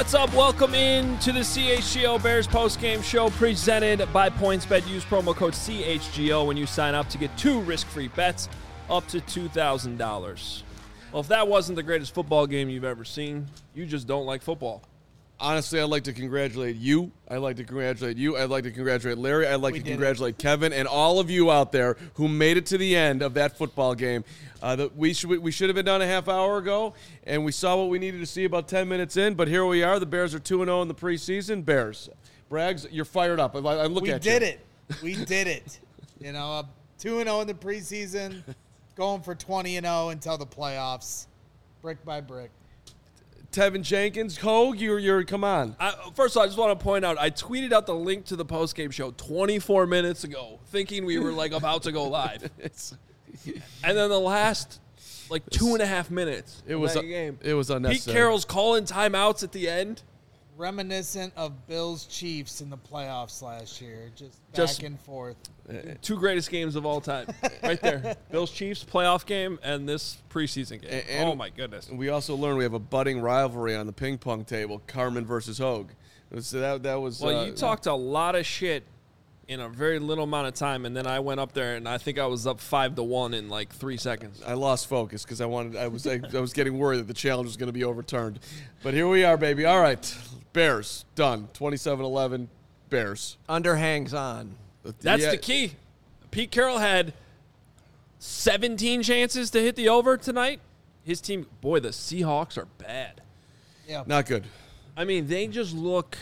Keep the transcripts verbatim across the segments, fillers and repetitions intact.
What's up? Welcome in to the C H G O Bears postgame show presented by PointsBet. Use promo code C H G O when you sign up to get two risk-free bets up to two thousand dollars. Well, if that wasn't the greatest football game you've ever seen, you just don't like football. Honestly, I'd like to congratulate you. I'd like to congratulate you. I'd like to congratulate Larry. I'd like we to congratulate it. Kevin and all of you out there who made it to the end of that football game. Uh, that we should we should have been done a half hour ago, and we saw what we needed to see about ten minutes in. But here we are. The Bears are two and oh in the preseason. Bears, Braggs, you're fired up. I, I look we at you. We did it. We did it. You know, uh, two and oh in the preseason, going for twenty and oh until the playoffs, brick by brick. Tevin Jenkins, Hogue, you're, you're come on. I, first of all, I just want to point out, I tweeted out the link to the postgame show twenty-four minutes ago, thinking we were like about to go live. And then the last like two and a half minutes, it was that a, game. It was unnecessary. Pete Carroll's calling timeouts at the end, reminiscent of Bills Chiefs in the playoffs last year, just back just, and forth. Two greatest games of all time, right there. Bills Chiefs playoff game and this preseason game. And, oh my goodness! We also learned we have a budding rivalry on the ping pong table: Carmen versus Hogue. So that that was. Well, uh, you talked a lot of shit in a very little amount of time, and then I went up there and I think I was up five to one in like three seconds. I lost focus because I wanted. I was I, I was getting worried that the challenge was going to be overturned, but here we are, baby. All right, Bears done. twenty-seven eleven Bears. Under hangs on. That's yeah. the key. Pete Carroll had seventeen chances to hit the over tonight. His team, boy, the Seahawks are bad. Yeah, not good. I mean, they just look.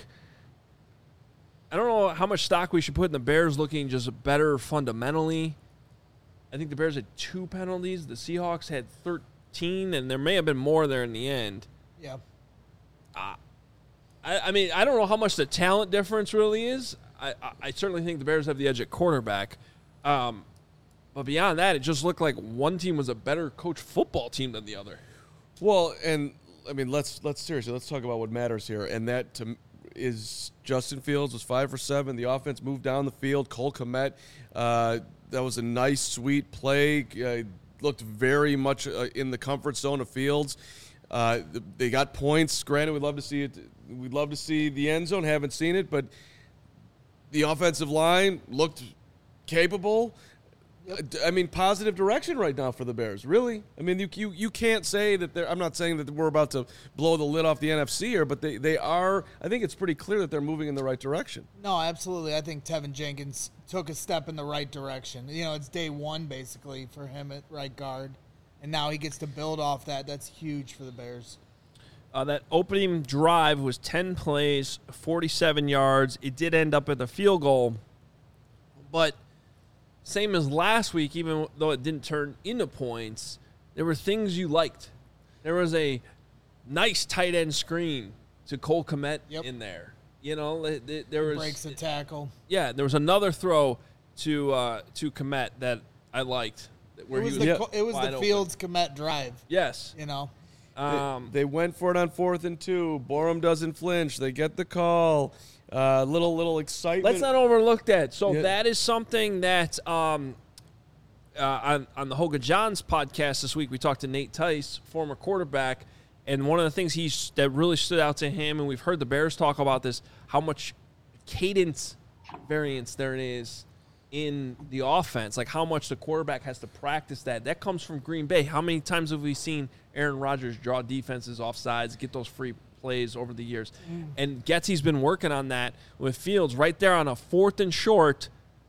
I don't know how much stock we should put in the Bears looking just better fundamentally. I think the Bears had two penalties. The Seahawks had thirteen, and there may have been more there in the end. Yeah. Uh, I, I mean, I don't know how much the talent difference really is. I, I, I certainly think the Bears have the edge at quarterback. Um, but beyond that, it just looked like one team was a better coached football team than the other. Well, and, I mean, let's let's seriously, let's talk about what matters here. And that to is Justin Fields was five for seven. The offense moved down the field. Cole Kmet, uh, that was a nice, sweet play. Uh, looked very much uh, in the comfort zone of Fields. Uh, they got points. Granted, we'd love to see it. We'd love to see the end zone. Haven't seen it, but the offensive line looked capable. Yep. I mean, positive direction right now for the Bears, really. I mean, you you, you can't say that they're – I'm not saying that we're about to blow the lid off the N F C here, but they, they are – I think it's pretty clear that they're moving in the right direction. No, absolutely. I think Tevin Jenkins took a step in the right direction. You know, it's day one basically for him at right guard, and now he gets to build off that. That's huge for the Bears. Uh, that opening drive was ten plays, forty-seven yards. It did end up at the field goal, but same as last week, even though it didn't turn into points, there were things you liked. There was a nice tight end screen to Cole Kmet yep. in there. You know, there was breaks the tackle. Yeah, there was another throw to uh, to Kmet that I liked. Where it was he was the, it was the Fields Kmet drive. Yes, you know. Um, they, they went for it on fourth and two. Borum doesn't flinch. They get the call. Uh, little little excitement. Let's not overlook that. So yeah. that is something that um, uh, on on the Hoga Johns podcast this week we talked to Nate Tice, former quarterback, and one of the things he's that really stood out to him, and we've heard the Bears talk about this, how much cadence variance there is in the offense, like how much the quarterback has to practice that. That comes from Green Bay. How many times have we seen Aaron Rodgers draw defenses off sides, get those free plays over the years? Mm. And Getsy's been working on that with Fields right there on a fourth and short.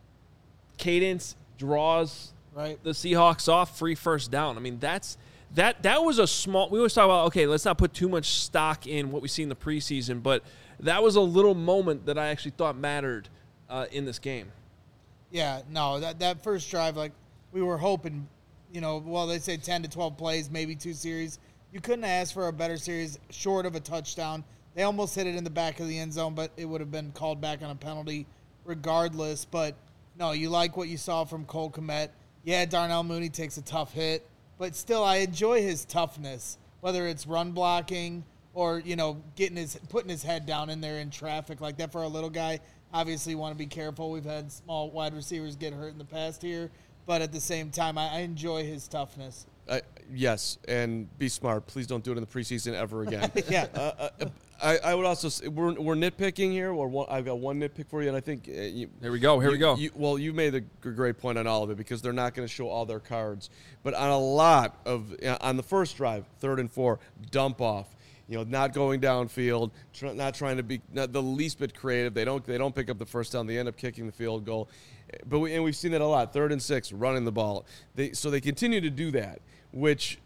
Cadence draws right. the Seahawks off, free first down. I mean, that's that that was a small – we always talk about, okay, let's not put too much stock in what we see in the preseason, but that was a little moment that I actually thought mattered uh, in this game. Yeah, no, that that first drive, like, we were hoping, you know, well, they say ten to twelve plays, maybe two series. You couldn't ask for a better series short of a touchdown. They almost hit it in the back of the end zone, but it would have been called back on a penalty regardless. But, no, you like what you saw from Cole Kmet. Yeah, Darnell Mooney takes a tough hit, but still I enjoy his toughness, whether it's run blocking or, you know, getting his putting his head down in there in traffic like that for a little guy. Obviously, you want to be careful. We've had small wide receivers get hurt in the past here. But at the same time, I, I enjoy his toughness. Uh, yes, and be smart. Please don't do it in the preseason ever again. yeah. Uh, uh, I, I would also say we're, we're nitpicking here. Or one, I've got one nitpick for you, and I think uh, you, Here we go. Here you, we go. You, well, you made a g- great point on all of it because they're not going to show all their cards. But on a lot of uh, on the first drive, third and four, dump off. You know, not going downfield, tr- not trying to be not the least bit creative. They don't they don't pick up the first down. They end up kicking the field goal. But we, and we've seen that a lot. Third and six, running the ball. They so they continue to do that, which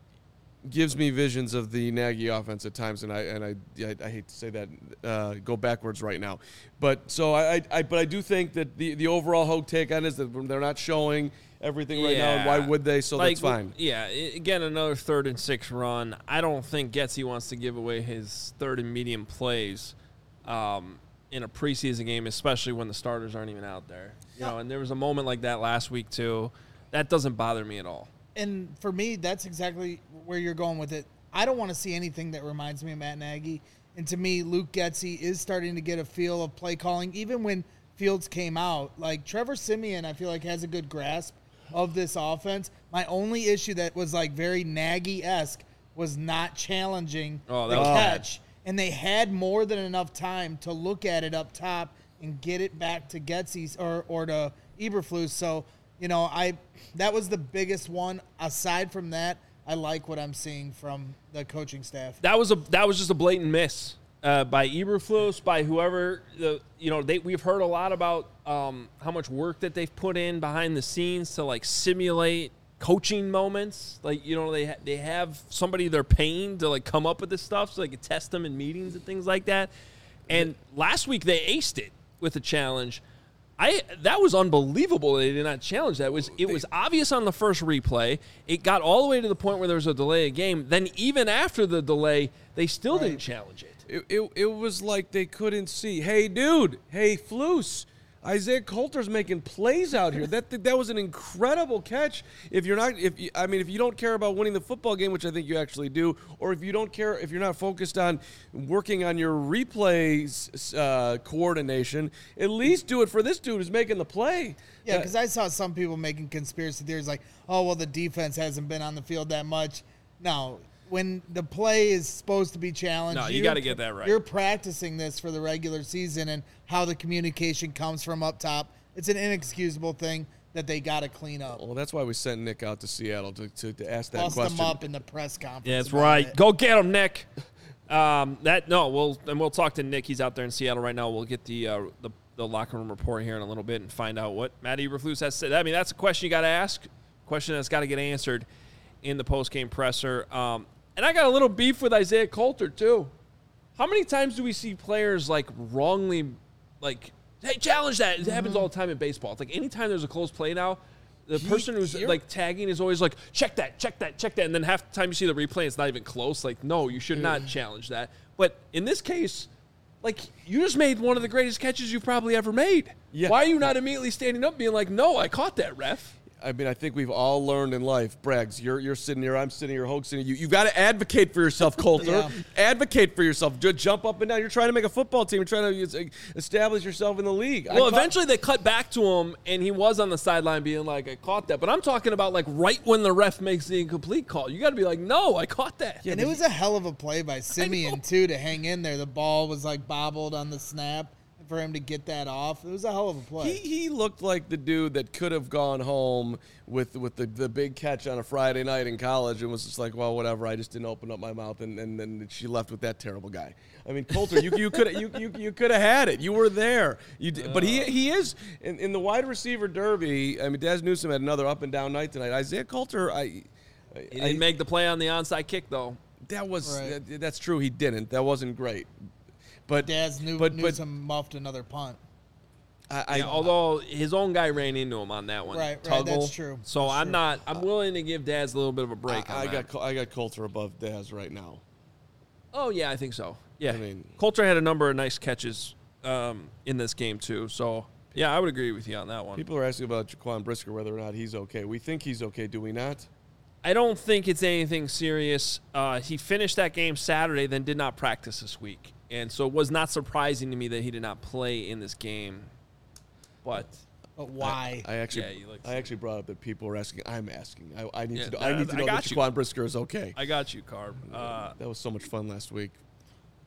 gives me visions of the Nagy offense at times, and I and I I, I hate to say that, uh, go backwards right now, but so I, I, I but I do think that the, the overall Hogue take on it is that they're not showing everything right now, and why would they? So like, that's fine. Yeah, i- again, another third and six run. I don't think Getsy wants to give away his third and medium plays um, in a preseason game, especially when the starters aren't even out there. You know, and there was a moment like that last week too. That doesn't bother me at all. And for me, that's exactly where you're going with it. I don't want to see anything that reminds me of Matt Nagy. And to me, Luke Getsy is starting to get a feel of play calling. Even when Fields came out, like Trevor Siemian, I feel like has a good grasp of this offense. My only issue that was like very Nagy-esque was not challenging Oh, that the was bad. catch. And they had more than enough time to look at it up top and get it back to Getsy's or, or to Eberflus. So, you know, I that was the biggest one. Aside from that, I like what I'm seeing from the coaching staff. That was a that was just a blatant miss uh, by Eberflus, by whoever. The you know they we've heard a lot about um, how much work that they've put in behind the scenes to like simulate coaching moments. Like you know they ha- they have somebody they're paying to like come up with this stuff so they can test them in meetings and things like that. And last week they aced it with a challenge. I that was unbelievable. They did not challenge that. It was it was obvious on the first replay. It got all the way to the point where there was a delay of game. Then even after the delay, they still Right. didn't challenge it. It, it it was like they couldn't see. Hey, dude. Hey, Flus. Isaiah Coulter's making plays out here. That that was an incredible catch. If you're not, if you, I mean, if you don't care about winning the football game, which I think you actually do, or if you don't care, if you're not focused on working on your replays uh, coordination, at least do it for this dude who's making the play. Yeah, Uh, because I saw some people making conspiracy theories like, oh, well, the defense hasn't been on the field that much. No, when the play is supposed to be challenged, No, you you're- gotta get that right. You're practicing this for the regular season and how the communication comes from up top. It's an inexcusable thing that they got to clean up. well, that's why we sent Nick out to Seattle to, to, to ask that Bust question. them up in the press conference. Yeah, that's about right. it. Go get him, Nick. Um, that no, we'll and we'll talk to Nick. He's out there in Seattle right now. We'll get the uh, the, the locker room report here in a little bit and find out what Matt Eberflus has said. I mean, that's a question you got to ask. Question that's got to get answered in the post game presser. Um, and I got a little beef with Isaiah Coulter too. How many times do we see players like wrongly, like, hey, challenge that? It happens all the time in baseball. It's like anytime there's a close play now, the person who's you're- like tagging is always like, check that, check that, check that. And then half the time you see the replay, it's not even close. Like, no, you should not challenge that. But in this case, like, you just made one of the greatest catches you've probably ever made. Yeah. Why are you not immediately standing up being like, no, I caught that, ref? I mean, I think we've all learned in life, Braggs, you're you're sitting here, I'm sitting here, Hogue sitting here. You, you've got to advocate for yourself, Coulter. Yeah. Advocate for yourself. Just jump up and down. You're trying to make a football team. You're trying to establish yourself in the league. I Well, caught- eventually they cut back to him, and he was on the sideline being like, I caught that. But I'm talking about, like, right when the ref makes the incomplete call. You got to be like, no, I caught that. And it was a hell of a play by Simeon, too, to hang in there. The ball was, like, bobbled on the snap. For him to get that off, it was a hell of a play. He, he looked like the dude that could have gone home with with the, the big catch on a Friday night in college and was just like, well, whatever. I just didn't open up my mouth, and and then she left with that terrible guy. I mean, Coulter, you you could you you, you could have had it. You were there. You did, but he he is in, in the wide receiver derby. I mean, Daz Newsome had another up and down night tonight. Isaiah Coulter, I. He I, didn't make the play on the onside kick, though. that was Right. that, that's true. He didn't. That wasn't great. But Daz knew, but, knew but some muffed another punt. I, I Yeah, although his own guy ran into him on that one. Right, right, Tuggle. that's true. So That's I'm true. not. I'm willing to give Daz a little bit of a break. I, on I that. got Col- I got Coulter above Daz right now. Oh yeah, I think so. Yeah, I mean- Coulter had a number of nice catches um, in this game too. So yeah, I would agree with you on that one. People are asking about Jaquan Brisker, whether or not he's okay. We think he's okay, do we not? I don't think it's anything serious. Uh, he finished that game Saturday, then did not practice this week, and so it was not surprising to me that he did not play in this game. But But why? I actually, Yeah, you like I actually brought up that people were asking. I'm asking. I, I need Yeah, to. Know, I- I need to I know got that you. Jaquan Brisker is okay. I got you, Carb. Uh, that was so much fun last week.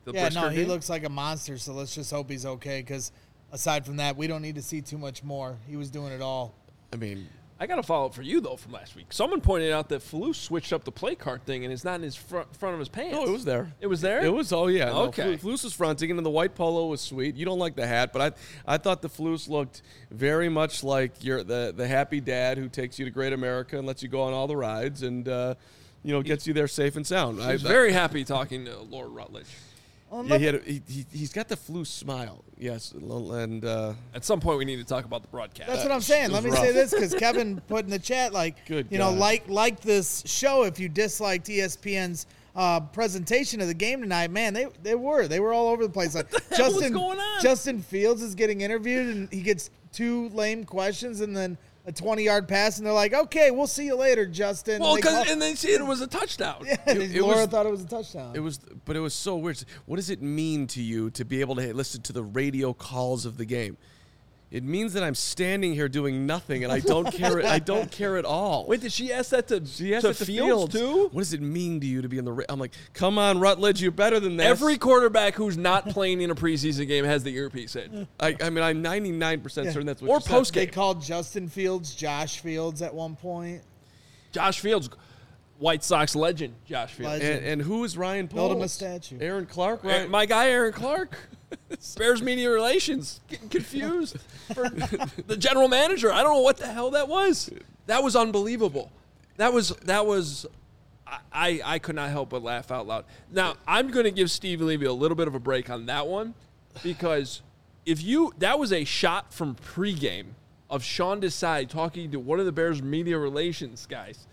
the Yeah, Brisker no, he game. looks like a monster, so let's just hope he's okay, because aside from that, we don't need to see too much more. He was doing it all. I mean, I got a follow up for you though from last week. Someone pointed out that Falou switched up the play card thing, and it's not in his front front of his pants. no, it was there. It was there. It was, oh, yeah. No, Okay. Flu- Flus was fronting, and then the white polo was sweet. You don't like the hat, but I I thought the Flus looked very much like your the, the happy dad who takes you to Great America and lets you go on all the rides and, uh, you know, gets you there safe and sound. I was very happy talking to Lord Rutledge. Well, Yeah, he had a, he, he, he's got the Flus smile, yes, and uh, At some point, we need to talk about the broadcast. That's what I'm saying. it Let me was say rough. this, because Kevin put in the chat, like, Good you know, God. like like this show. If you disliked E S P N's uh, presentation of the game tonight, man, they they were they were all over the place. Like hell was Justin going on? Justin Fields is getting interviewed, and he gets two lame questions, and then a twenty-yard pass, and they're like, "Okay, we'll see you later, Justin." Well, and they because call- and they see it was a touchdown. yeah, it- it Laura was- thought it was a touchdown. it was, but it was so weird. What does it mean to you to be able to listen to the radio calls of the game? It means that I'm standing here doing nothing, and I don't care. I don't care at all. Wait, did she ask that to, She asked to it to Fields, Fields too? What does it mean to you to be in the? Ra-? I'm like, come on, Rutledge, you're better than this. Every quarterback who's not playing in a preseason game has the earpiece in. I, I mean, I'm ninety-nine percent Yeah. certain that's what. Or you said. post They game. called Justin Fields Josh Fields at one point. Josh Fields, White Sox legend, Josh Fields. Legend. And, and who is Ryan Build Poles? him a statue. Aaron Clark, Right. right? My guy, Aaron Clark. Bears media relations. Getting confused for the general manager. I don't know what the hell that was. That was unbelievable. That was, that was, I, I, I could not help but laugh out loud. Now, I'm going to give Steve Levy a little bit of a break on that one, because if you, that was a shot from pregame of Sean Desai talking to one of the Bears media relations guys.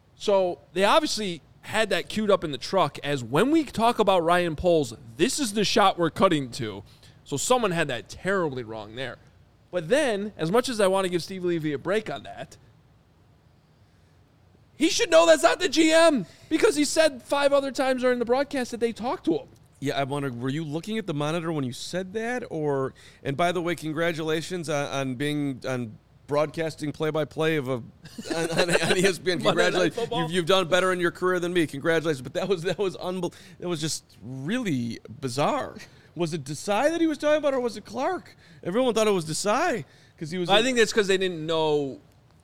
So they obviously had that queued up in the truck as when we talk about Ryan Poles, this is the shot we're cutting to. So someone had that terribly wrong there. But then, as much as I want to give Steve Levy a break on that, he should know that's not the G M, because he said five other times during the broadcast that they talked to him. Yeah, I wonder, were you looking at the monitor when you said that, or? And by the way, congratulations on, on being on broadcasting play-by-play of a on, on, on E S P N. Monday Night Congratulations, Football. you've, you've done better in your career than me. Congratulations, but that was that was unbel- That was just really bizarre. Was it Desai that he was talking about, or was it Clark? Everyone thought it was Desai because he was. I think that's because they didn't know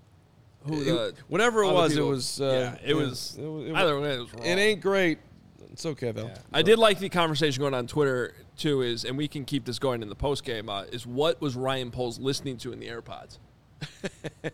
who it- the whatever it other was, people- it was. Uh, yeah, it was. It, was- it, Either way, it was wrong. it ain't great. It's okay though. I did like the conversation going on Twitter too. Is and we can keep this going in the post game. Uh, is what was Ryan Poles listening to in the AirPods? Is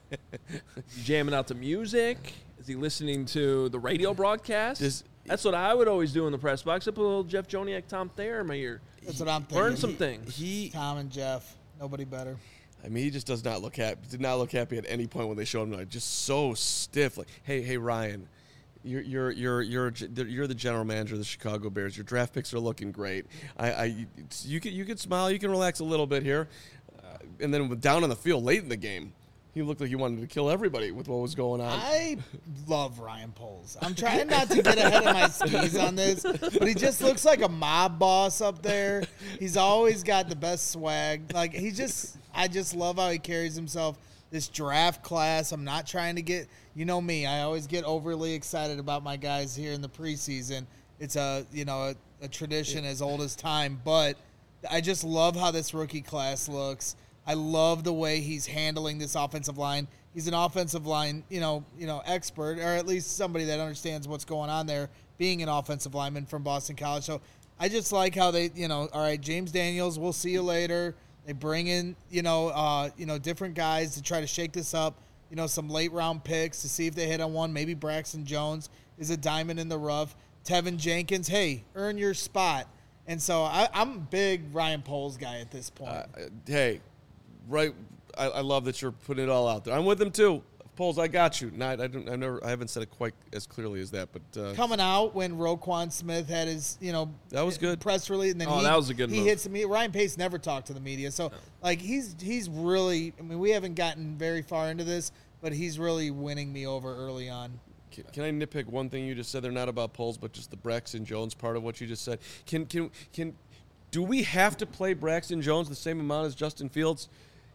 he jamming out to music? Is he listening to the radio broadcast? Does- That's what I would always do in the press box. I put a little Jeff Joniak, Tom Thayer in my ear. That's what I'm thinking. Learn some things. He, Tom and Jeff. Nobody better. I mean, he just does not look happy. Did not look happy at any point when they showed him. Like, just so stiff. Like, hey, hey, Ryan, you're you're you're you're you're the general manager of the Chicago Bears. Your draft picks are looking great. I, I you can you can smile. You can relax a little bit here. Uh, and then down on the field late in the game, he looked like he wanted to kill everybody with what was going on. I love Ryan Poles. I'm trying not to get ahead of my skis on this, but he just looks like a mob boss up there. He's always got the best swag. Like, he just, I just love how he carries himself. This draft class, I'm not trying to get, you know me, I always get overly excited about my guys here in the preseason. It's a, you know, a, a tradition as old as time, but I just love how this rookie class looks. I love the way he's handling this offensive line. He's an offensive line, you know, you know, expert, or at least somebody that understands what's going on there, being an offensive lineman from Boston College. So I just like how they, you know, all right, James Daniels, we'll see you later. They bring in, you know, uh, you know, different guys to try to shake this up. You know, some late round picks to see if they hit on one. Maybe Braxton Jones is a diamond in the rough. Tevin Jenkins, hey, earn your spot. And so I, I'm a big Ryan Poles guy at this point. Uh, hey, right. I, I love that you're putting it all out there. I'm with him too. Poles, I got you. Not, I don't. I never. I haven't said it quite as clearly as that, but uh, Coming out when Roquan Smith had his, you know, That was good. press release, and then Oh, he, that was a good he move. hits the media. Ryan Pace never talked to the media, so like he's he's really. I mean, we haven't gotten very far into this, but he's really winning me over early on. Can, can I nitpick one thing you just said? They're not about Poles, but just the Braxton Jones part of what you just said. Can can can do we have to play Braxton Jones the same amount as Justin Fields?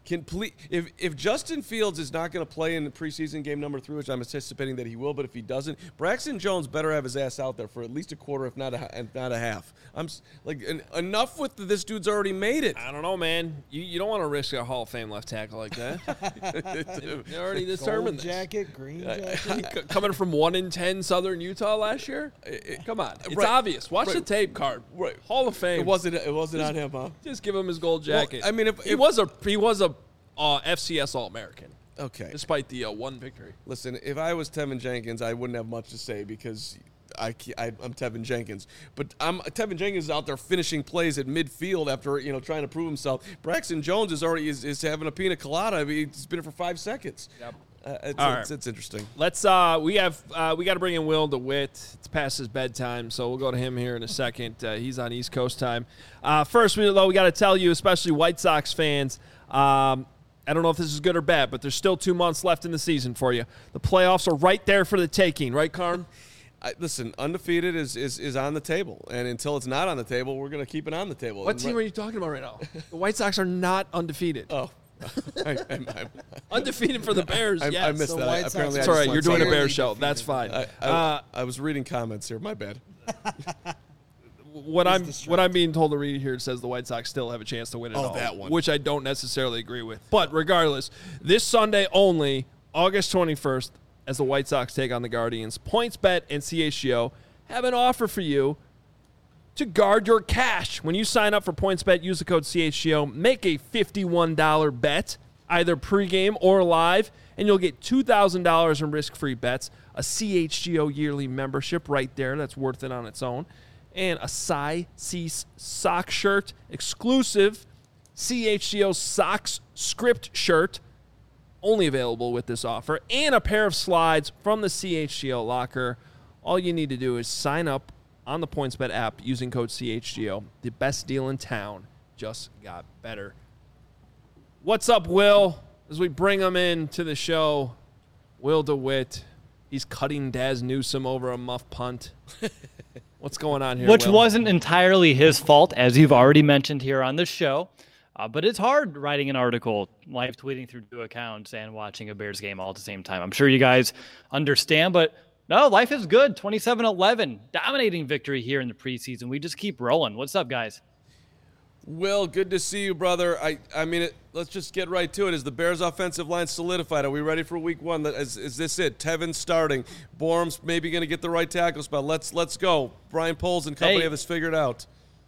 Can ple- if if Justin Fields is not going to play in the preseason game number three, which I'm anticipating that he will, but if he doesn't, Braxton Jones better have his ass out there for at least a quarter, if not a, if not a half. I'm s- like en- enough with the, this dude's already made it. I don't know, man. You you don't want to risk a Hall of Fame left tackle like that. You already determined Gold this. jacket, green jacket. C- Coming from one in ten Southern Utah last year. Come on, it's Right. obvious. Watch Right. the tape card. Right. Hall of Fame. It wasn't it wasn't on him, huh? Just give him his gold Well, jacket. I mean, if- he if- was a he was a uh, F C S All American, Okay. despite the uh, one victory. Listen, if I was Tevin Jenkins, I wouldn't have much to say because I, I I'm Tevin Jenkins. But I'm Tevin Jenkins is out there finishing plays at midfield after you know trying to prove himself. Braxton Jones is already is, is having a pina colada. I mean, he's been here for five seconds. Yep. Uh, it's, All it's, right. it's interesting. Let's uh we have uh, we got to bring in Will DeWitt. It's past his bedtime, so we'll go to him here in a second. Uh, he's on East Coast time. Uh, first, we though we got to tell you, especially White Sox fans. Um, I don't know if this is good or bad, but there's still two months left in the season for you. The playoffs are right there for the taking, right, Carm? I, listen, undefeated is, is is on the table, and until it's not on the table, we're going to keep it on the table. What And team right- are you talking about right now? The White Sox are not undefeated. Oh, I, I, I, Undefeated for the Bears, I, yes. I missed The that. White I, Sox apparently, are I It's all just right. went You're doing a somewhere. Bears Barely show. That's fine. I, I, Uh, I was reading comments here. My bad. what I'm distracted. what I'm being told to read here says the White Sox still have a chance to win it Oh, all, that one. which I don't necessarily agree with. But regardless, this Sunday only, August twenty-first, as the White Sox take on the Guardians, PointsBet and C H G O have an offer for you to guard your cash. When you sign up for PointsBet, use the code C H G O, make a fifty-one dollars bet, either pregame or live, and you'll get two thousand dollars in risk-free bets, a C H G O yearly membership right there that's worth it on its own, and a Cy Cease sock shirt, exclusive C H G O Socks script shirt, only available with this offer, and a pair of slides from the C H G O locker. All you need to do is sign up on the PointsBet app using code C H G O. The best deal in town just got better. What's up, Will? As we bring him in to the show, Will DeWitt. He's cutting Daz Newsome over a muff punt. What's going on here, Which Will? wasn't entirely his fault, as you've already mentioned here on the show. Uh, but it's hard writing an article, live tweeting through two accounts, and watching a Bears game all at the same time. I'm sure you guys understand, but no, life is good. twenty-seven eleven, dominating victory here in the preseason. We just keep rolling. What's up, guys? Will, good to see you, brother. I, I mean, it, let's just get right to it. Is the Bears' offensive line solidified? Are we ready for Week One? Is, is this it? Tevin starting. Borum's maybe going to get the right tackle spot. Let's let's go. Brian Poles and company Hey. have this figured out.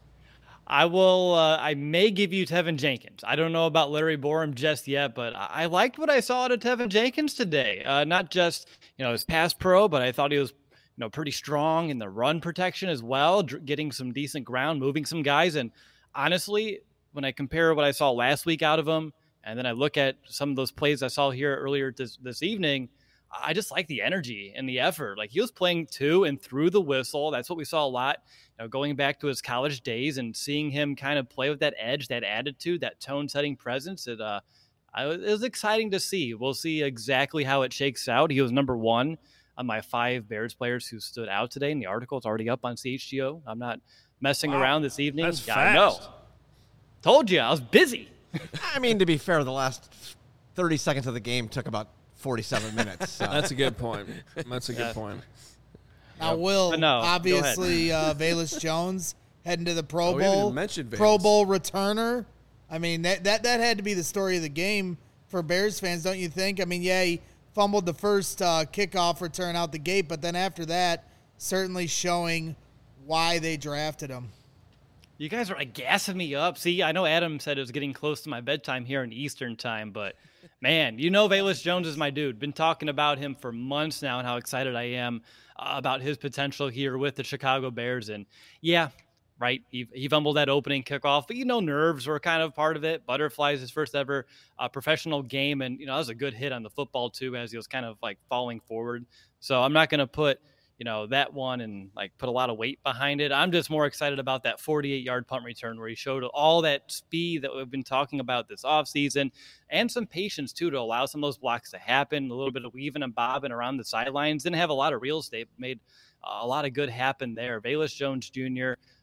I will. Uh, I may give you Tevin Jenkins. I don't know about Larry Borum just yet, but I, I liked what I saw out of Tevin Jenkins today. Uh, not just you know his pass pro, but I thought he was you know pretty strong in the run protection as well, dr- getting some decent ground, moving some guys. And honestly, when I compare what I saw last week out of him, and then I look at some of those plays I saw here earlier this this evening, I just like the energy and the effort. Like he was playing to and through the whistle. That's what we saw a lot. You know, going back to his college days and seeing him kind of play with that edge, that attitude, that tone-setting presence, it, uh, I, it was exciting to see. We'll see exactly how it shakes out. He was number one on my five Bears players who stood out today, and the article is already up on C H G O. I'm not messing Wow. around this evening. That's yeah, I know. fast. Told you, I was busy. I mean, to be fair, the last thirty seconds of the game took about forty-seven minutes. So. That's a good point. That's a good Yeah. point. Now, Will, But no, go obviously, uh, Velus Jones heading to the Pro Oh, we haven't Bowl. even mentioned Pro Velus. Bowl returner. I mean, that, that that had to be the story of the game for Bears fans, don't you think? I mean, yeah, he fumbled the first uh, kickoff return out the gate, but then after that, certainly showing why they drafted him. You guys are like gassing me up. See, I know Adam said it was getting close to my bedtime here in Eastern time, but man, you know Velus Jones is my dude. Been talking about him for months now and how excited I am uh, about his potential here with the Chicago Bears. And yeah, right, he, he fumbled that opening kickoff, but you know nerves were kind of part of it. Butterflies, his first ever uh, professional game, and you know that was a good hit on the football too as he was kind of like falling forward. So I'm not going to put you know, that one and like put a lot of weight behind it. I'm just more excited about that forty-eight yard punt return where he showed all that speed that we've been talking about this offseason and some patience too to allow some of those blocks to happen, a little bit of weaving and bobbing around the sidelines. Didn't have a lot of real estate, made uh, a lot of good happen there. Velus Jones Junior,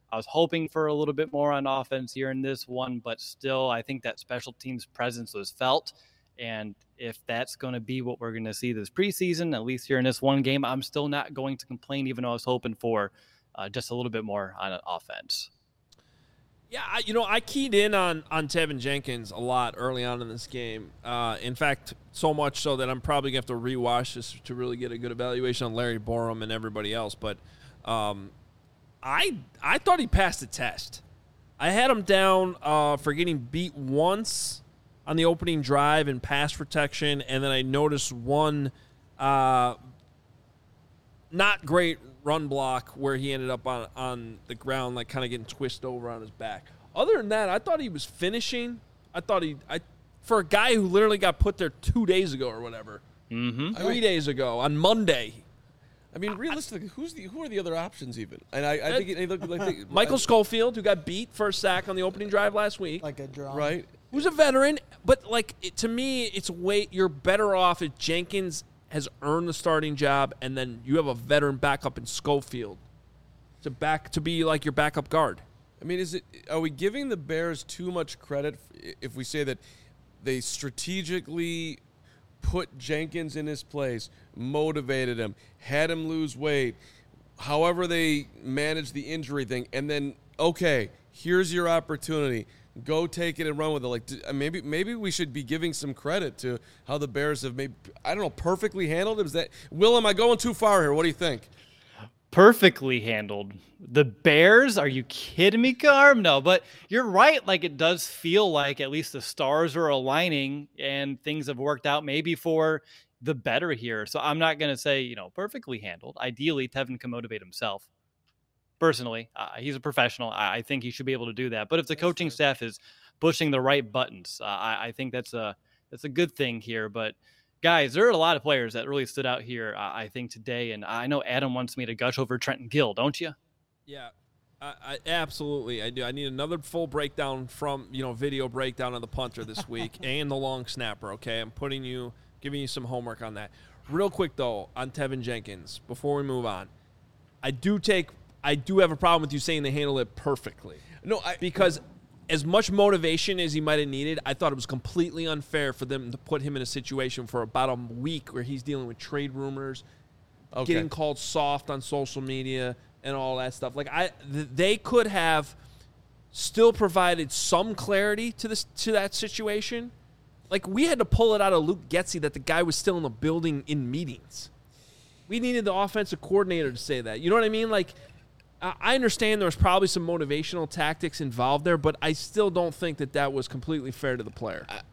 I was hoping for a little bit more on offense here in this one, but still, I think that special teams presence was felt. And if that's going to be what we're going to see this preseason, at least here in this one game, I'm still not going to complain, even though I was hoping for uh, just a little bit more on offense. Yeah, I, you know, I keyed in on, on Tevin Jenkins a lot early on in this game. Uh, in fact, so much so that I'm probably going to have to rewatch this to really get a good evaluation on Larry Borom and everybody else. But um, I I thought he passed the test. I had him down uh, for getting beat once on the opening drive in pass protection, and then I noticed one uh, not great run block where he ended up on, on the ground, like kind of getting twisted over on his back. Other than that, I thought he was finishing. I thought he, I, for a guy who literally got put there two days ago or whatever, mm-hmm. three I mean, days ago on Monday. I mean, realistically, who's the who are the other options even? And I, I think it, it looked like they, Michael I, Schofield, who got beat for a sack on the opening drive last week, Like a draw. right? Who's a veteran, but like it, to me, it's way you're better off if Jenkins has earned the starting job, and then you have a veteran backup in Schofield to back to be like your backup guard. I mean, is it? Are we giving the Bears too much credit if we say that they strategically put Jenkins in his place, motivated him, had him lose weight, however they managed the injury thing, and then okay, here's your opportunity. Go take it and run with it. Like maybe, maybe we should be giving some credit to how the Bears have maybe I don't know perfectly handled it. Is that Will? Am I going too far here? What do you think? Perfectly handled. The Bears? Are you kidding me, Carm? No, but you're right. Like it does feel like at least the stars are aligning and things have worked out maybe for the better here. So I'm not going to say you know perfectly handled. Ideally, Tevin can motivate himself. Personally, uh, he's a professional. I, I think he should be able to do that. But if the coaching staff is pushing the right buttons, uh, I, I think that's a that's a good thing here. But guys, there are a lot of players that really stood out here. Uh, I think today, and I know Adam wants me to gush over Trenton Gill, don't you? Yeah, I, I absolutely I do. I need another full breakdown from you know video breakdown of the punter this week and the long snapper. Okay, I'm putting you giving you some homework on that. Real quick though, on Tevin Jenkins before we move on, I do take. I do have a problem with you saying they handle it perfectly. No, I, because as much motivation as he might have needed, I thought it was completely unfair for them to put him in a situation for about a week where he's dealing with trade rumors, okay. getting called soft on social media, and all that stuff. Like I, th- they could have still provided some clarity to this to that situation. Like we had to pull it out of Luke Getsy that the guy was still in the building in meetings. We needed the offensive coordinator to say that. You know what I mean? Like. I understand there was probably some motivational tactics involved there, but I still don't think that that was completely fair to the player. I,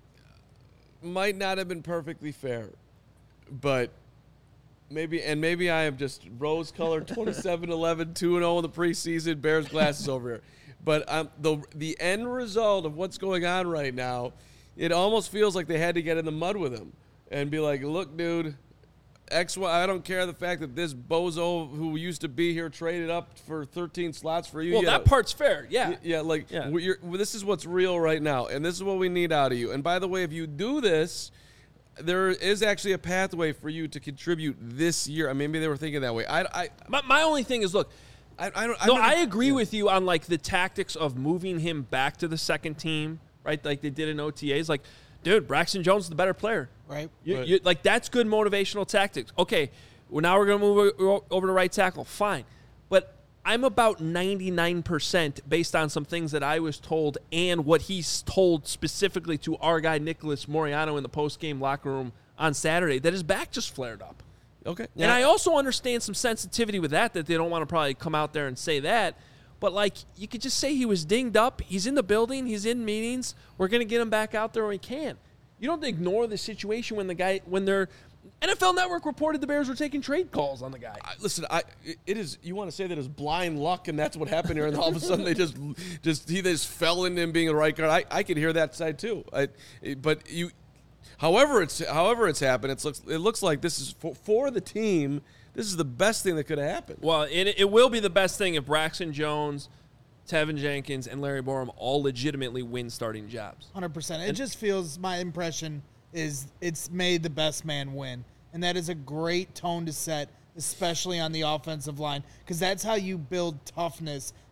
might not have been perfectly fair, but maybe, and maybe I am just rose-colored twenty-seven eleven, two and oh in the preseason, Bears glasses over here. But um, the the end result of what's going on right now, it almost feels like they had to get in the mud with him and be like, look, dude, X, Y, I don't care the fact that this bozo who used to be here traded up for thirteen slots for you. Well, yeah, that part's fair, yeah. Yeah, like, yeah. You're, this is what's real right now, and this is what we need out of you. And by the way, if you do this, there is actually a pathway for you to contribute this year. I mean, maybe they were thinking that way. I, I my, my only thing is, look, I, I don't. no, I'm I gonna, agree yeah. with you on, like, the tactics of moving him back to the second team, right, like they did in O T As. Like, dude, Braxton Jones is the better player. Right. You, right. you, like, that's good motivational tactics. Okay, well, now we're going to move over to right tackle. Fine. But I'm about ninety-nine percent based on some things that I was told and what he's told specifically to our guy Nicholas Moriano in the post-game locker room on Saturday, that his back just flared up. Okay. And I also understand some sensitivity with that, that they don't want to probably come out there and say that. But, like, you could just say he was dinged up. He's in the building. He's in meetings. We're going to get him back out there when we can. You don't ignore the situation when the guy, when they're, N F L Network reported the Bears were taking trade calls on the guy. I, listen, I it is. You want to say that it's blind luck, and that's what happened here, and all of a sudden they just, just he just fell into him being a right guard. I, I could hear that side too. I, but you, however it's however it's happened, it looks it looks like this is for, for the team. This is the best thing that could have happened. Well, it it will be the best thing if Braxton Jones, Tevin Jenkins, and Larry Borom all legitimately win starting jobs. one hundred percent. It just feels, my impression is it's made the best man win. And that is a great tone to set, especially on the offensive line, because that's how you build toughness.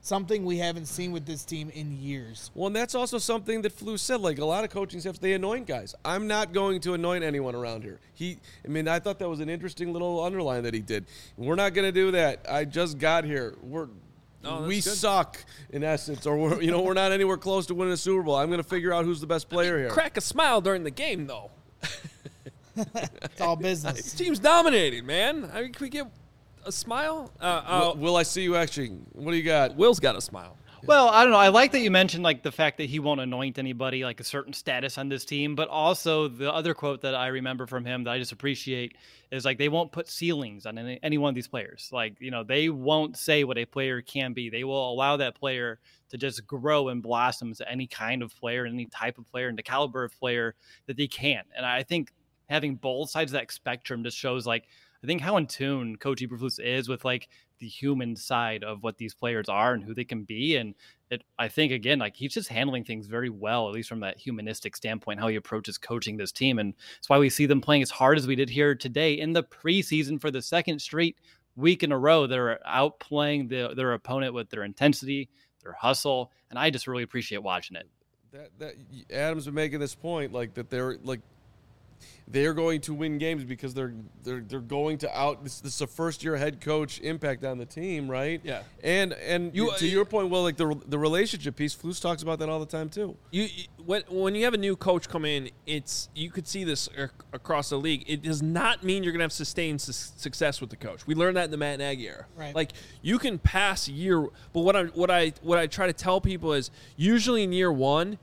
something we haven't seen with this team in years. Well, and that's also something that Flu said. Like, a lot of coaching staffs, they anoint guys. I'm not going to anoint anyone around here. He, I mean, I thought that was an interesting little underline that he did. We're not going to do that. I just got here. We're Oh, we good. suck in essence, or we're, you know, we're not anywhere close to winning a Super Bowl. I'm going to figure out who's the best player here. Crack a smile during the game, though. It's all This business. team's dominating, man. I mean, can we get a smile? Uh, uh, will, will I see you actually? What do you got? Will's got a smile. Well, I don't know. I like that you mentioned like the fact that he won't anoint anybody like a certain status on this team, but also the other quote that I remember from him that I just appreciate is like they won't put ceilings on any, any one of these players. Like, you know, they won't say what a player can be. They will allow that player to just grow and blossom as any kind of player, any type of player, and the caliber of player that they can. And I think having both sides of that spectrum just shows like I think how in tune Coach Eberflus is with like the human side of what these players are and who they can be. And it, I think, again, like he's just handling things very well, at least from that humanistic standpoint, how he approaches coaching this team. And that's why we see them playing as hard as we did here today in the preseason for the second straight week in a row. They're outplaying the, their opponent with their intensity, their hustle. And I just really appreciate watching it. That, that Adam's been making this point, like that they're like they're going to win games because they're they're they're going to out. This, this is a first year head coach impact on the team, right? Yeah. And and You- to your point, well, like the the relationship piece, Flus talks about that all the time too. You, you when when you have a new coach come in, it's you could see this ac- across the league. It does not mean you're going to have sustained su- success with the coach. We learned that in the Matt Nagy era. Right. Like you can pass a year, but what I what I what I try to tell people is usually in year one,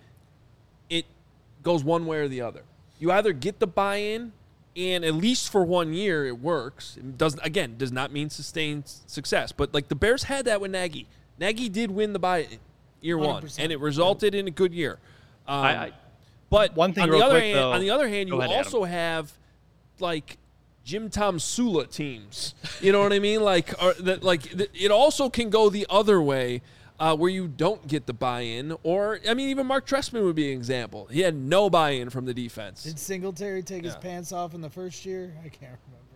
it goes one way or the other. You either get the buy-in, and at least for one year it works. It doesn't again does not mean sustained success. But like the Bears had that with Nagy. Nagy did win the buy-in year one, one hundred percent. and it resulted in a good year. Um, I- I- but one thing on the real other quick, hand, though- on the other hand, Go you ahead, Adam. also have like Jim Tom Sula teams. You know what I mean? Like, or that like th- it also can go the other way. Uh, where you don't get the buy-in, or I mean, even Mark Trestman would be an example. He had no buy-in from the defense. Did Singletary take his Yeah. pants off in the first year? I can't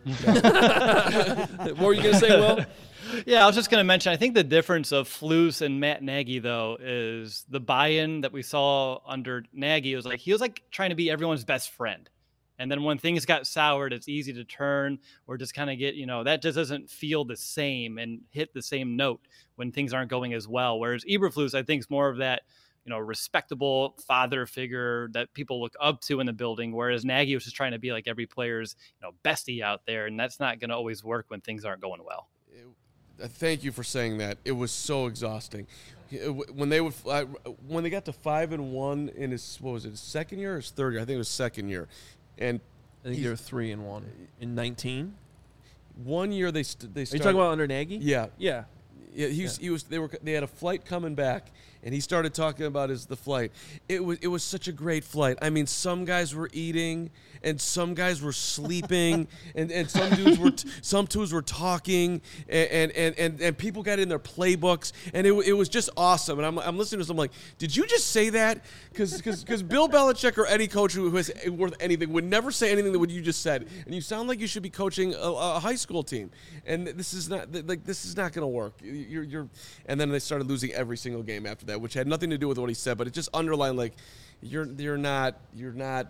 remember. What were you gonna say, Will? Yeah, I was just going to mention, I think the difference of Flus and Matt Nagy, though, is the buy-in that we saw under Nagy. It was like he was like trying to be everyone's best friend. And then when things got soured, it's easy to turn or just kind of get, you know, that just doesn't feel the same and hit the same note when things aren't going as well. Whereas Eberflus, I think, is more of that, you know, respectable father figure that people look up to in the building. Whereas Nagy was just trying to be like every player's, you know, bestie out there. And that's not going to always work when things aren't going well. Uh, Thank you for saying that. It was so exhausting. Uh, When they would, uh, when they got to five and one in his, what was it, his second year or his third year? I think it was second year. And I think he's- they're three and one in nineteen. one year they st- they Are you started, talking about under Nagy? Yeah, Yeah. yeah. He was, he was. They were. They had a flight coming back, and he started talking about his the flight. It was. It was such a great flight. I mean, some guys were eating, and some guys were sleeping, and, and some dudes were. T- some dudes were talking, and and, and and people got in their playbooks, and it, it was just awesome. And I'm I'm listening to this. I'm like, did you just say that? Because because Bill Belichick or any coach who has worth anything would never say anything that what you just said. And you sound like you should be coaching a, a high school team, and this is not like this is not going to work. You're, you're, and then they started losing every single game after that, which had nothing to do with what he said, but it just underlined like, you're, you're not, you're not,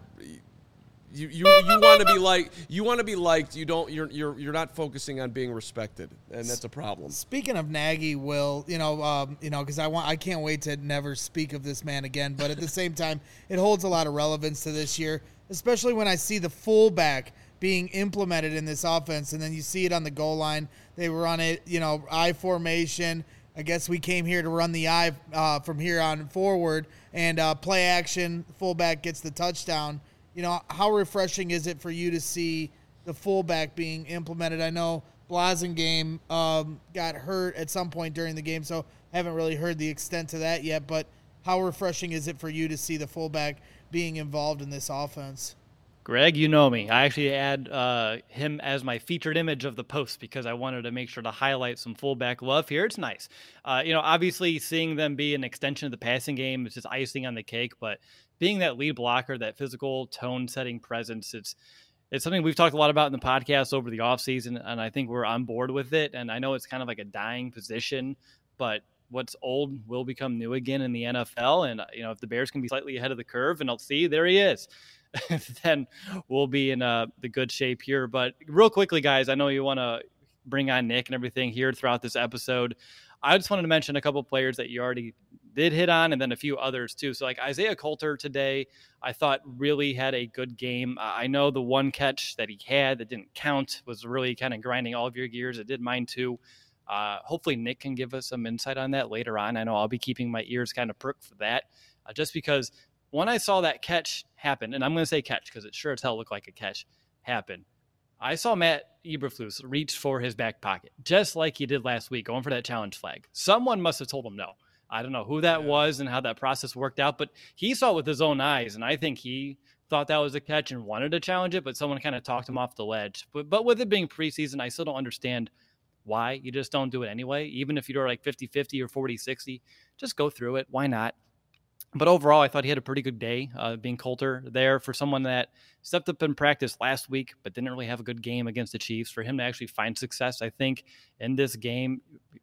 you, you, you want to be like, you want to be liked. You don't, you're, you're, you're not focusing on being respected, and that's a problem. Speaking of Nagy, Will, you know, um, you know, because I want, I can't wait to never speak of this man again. But at the same time, it holds a lot of relevance to this year, especially when I see the fullback being implemented in this offense, and then you see it on the goal line. They run it, you know, I formation. I guess we came here to run the I uh, from here on forward, and uh, play action. Fullback gets the touchdown. You know, how refreshing is it for you to see the fullback being implemented? I know Blasingame um, got hurt at some point during the game, so I haven't really heard the extent to that yet. But how refreshing is it for you to see the fullback being involved in this offense? Greg, you know me. I actually add uh, him as my featured image of the post because I wanted to make sure to highlight some fullback love here. It's nice. Uh, you know, obviously seeing them be an extension of the passing game is just icing on the cake, but being that lead blocker, that physical tone-setting presence, it's it's something we've talked a lot about in the podcast over the offseason, and I think we're on board with it. And I know it's kind of like a dying position, but what's old will become new again in the N F L. And, you know, if the Bears can be slightly ahead of the curve and I'll see, there he is, then we'll be in uh, the good shape here. But real quickly, guys, I know you want to bring on Nick and everything here throughout this episode. I just wanted to mention a couple of players that you already did hit on, and then a few others too. So like Isaiah Coulter today, I thought really had a good game. Uh, I know the one catch that he had that didn't count was really kind of grinding all of your gears. It did mine too. Uh, hopefully Nick can give us some insight on that later on. I know I'll be keeping my ears kind of perked for that, uh, just because when I saw that catch happen, and I'm going to say catch because it sure as hell looked like a catch happen, I saw Matt Eberflus reach for his back pocket, just like he did last week, going for that challenge flag. Someone must have told him no. I don't know who that yeah. was and how that process worked out, but he saw it with his own eyes, and I think he thought that was a catch and wanted to challenge it, but someone kind of talked him off the ledge. But, but with it being preseason, I still don't understand why. You just don't do it anyway. Even if you're like fifty-fifty or forty sixty, just go through it. Why not? But overall, I thought he had a pretty good day, uh, being Coulter there for someone that stepped up in practice last week, but didn't really have a good game against the Chiefs. For him to actually find success, I think, in this game,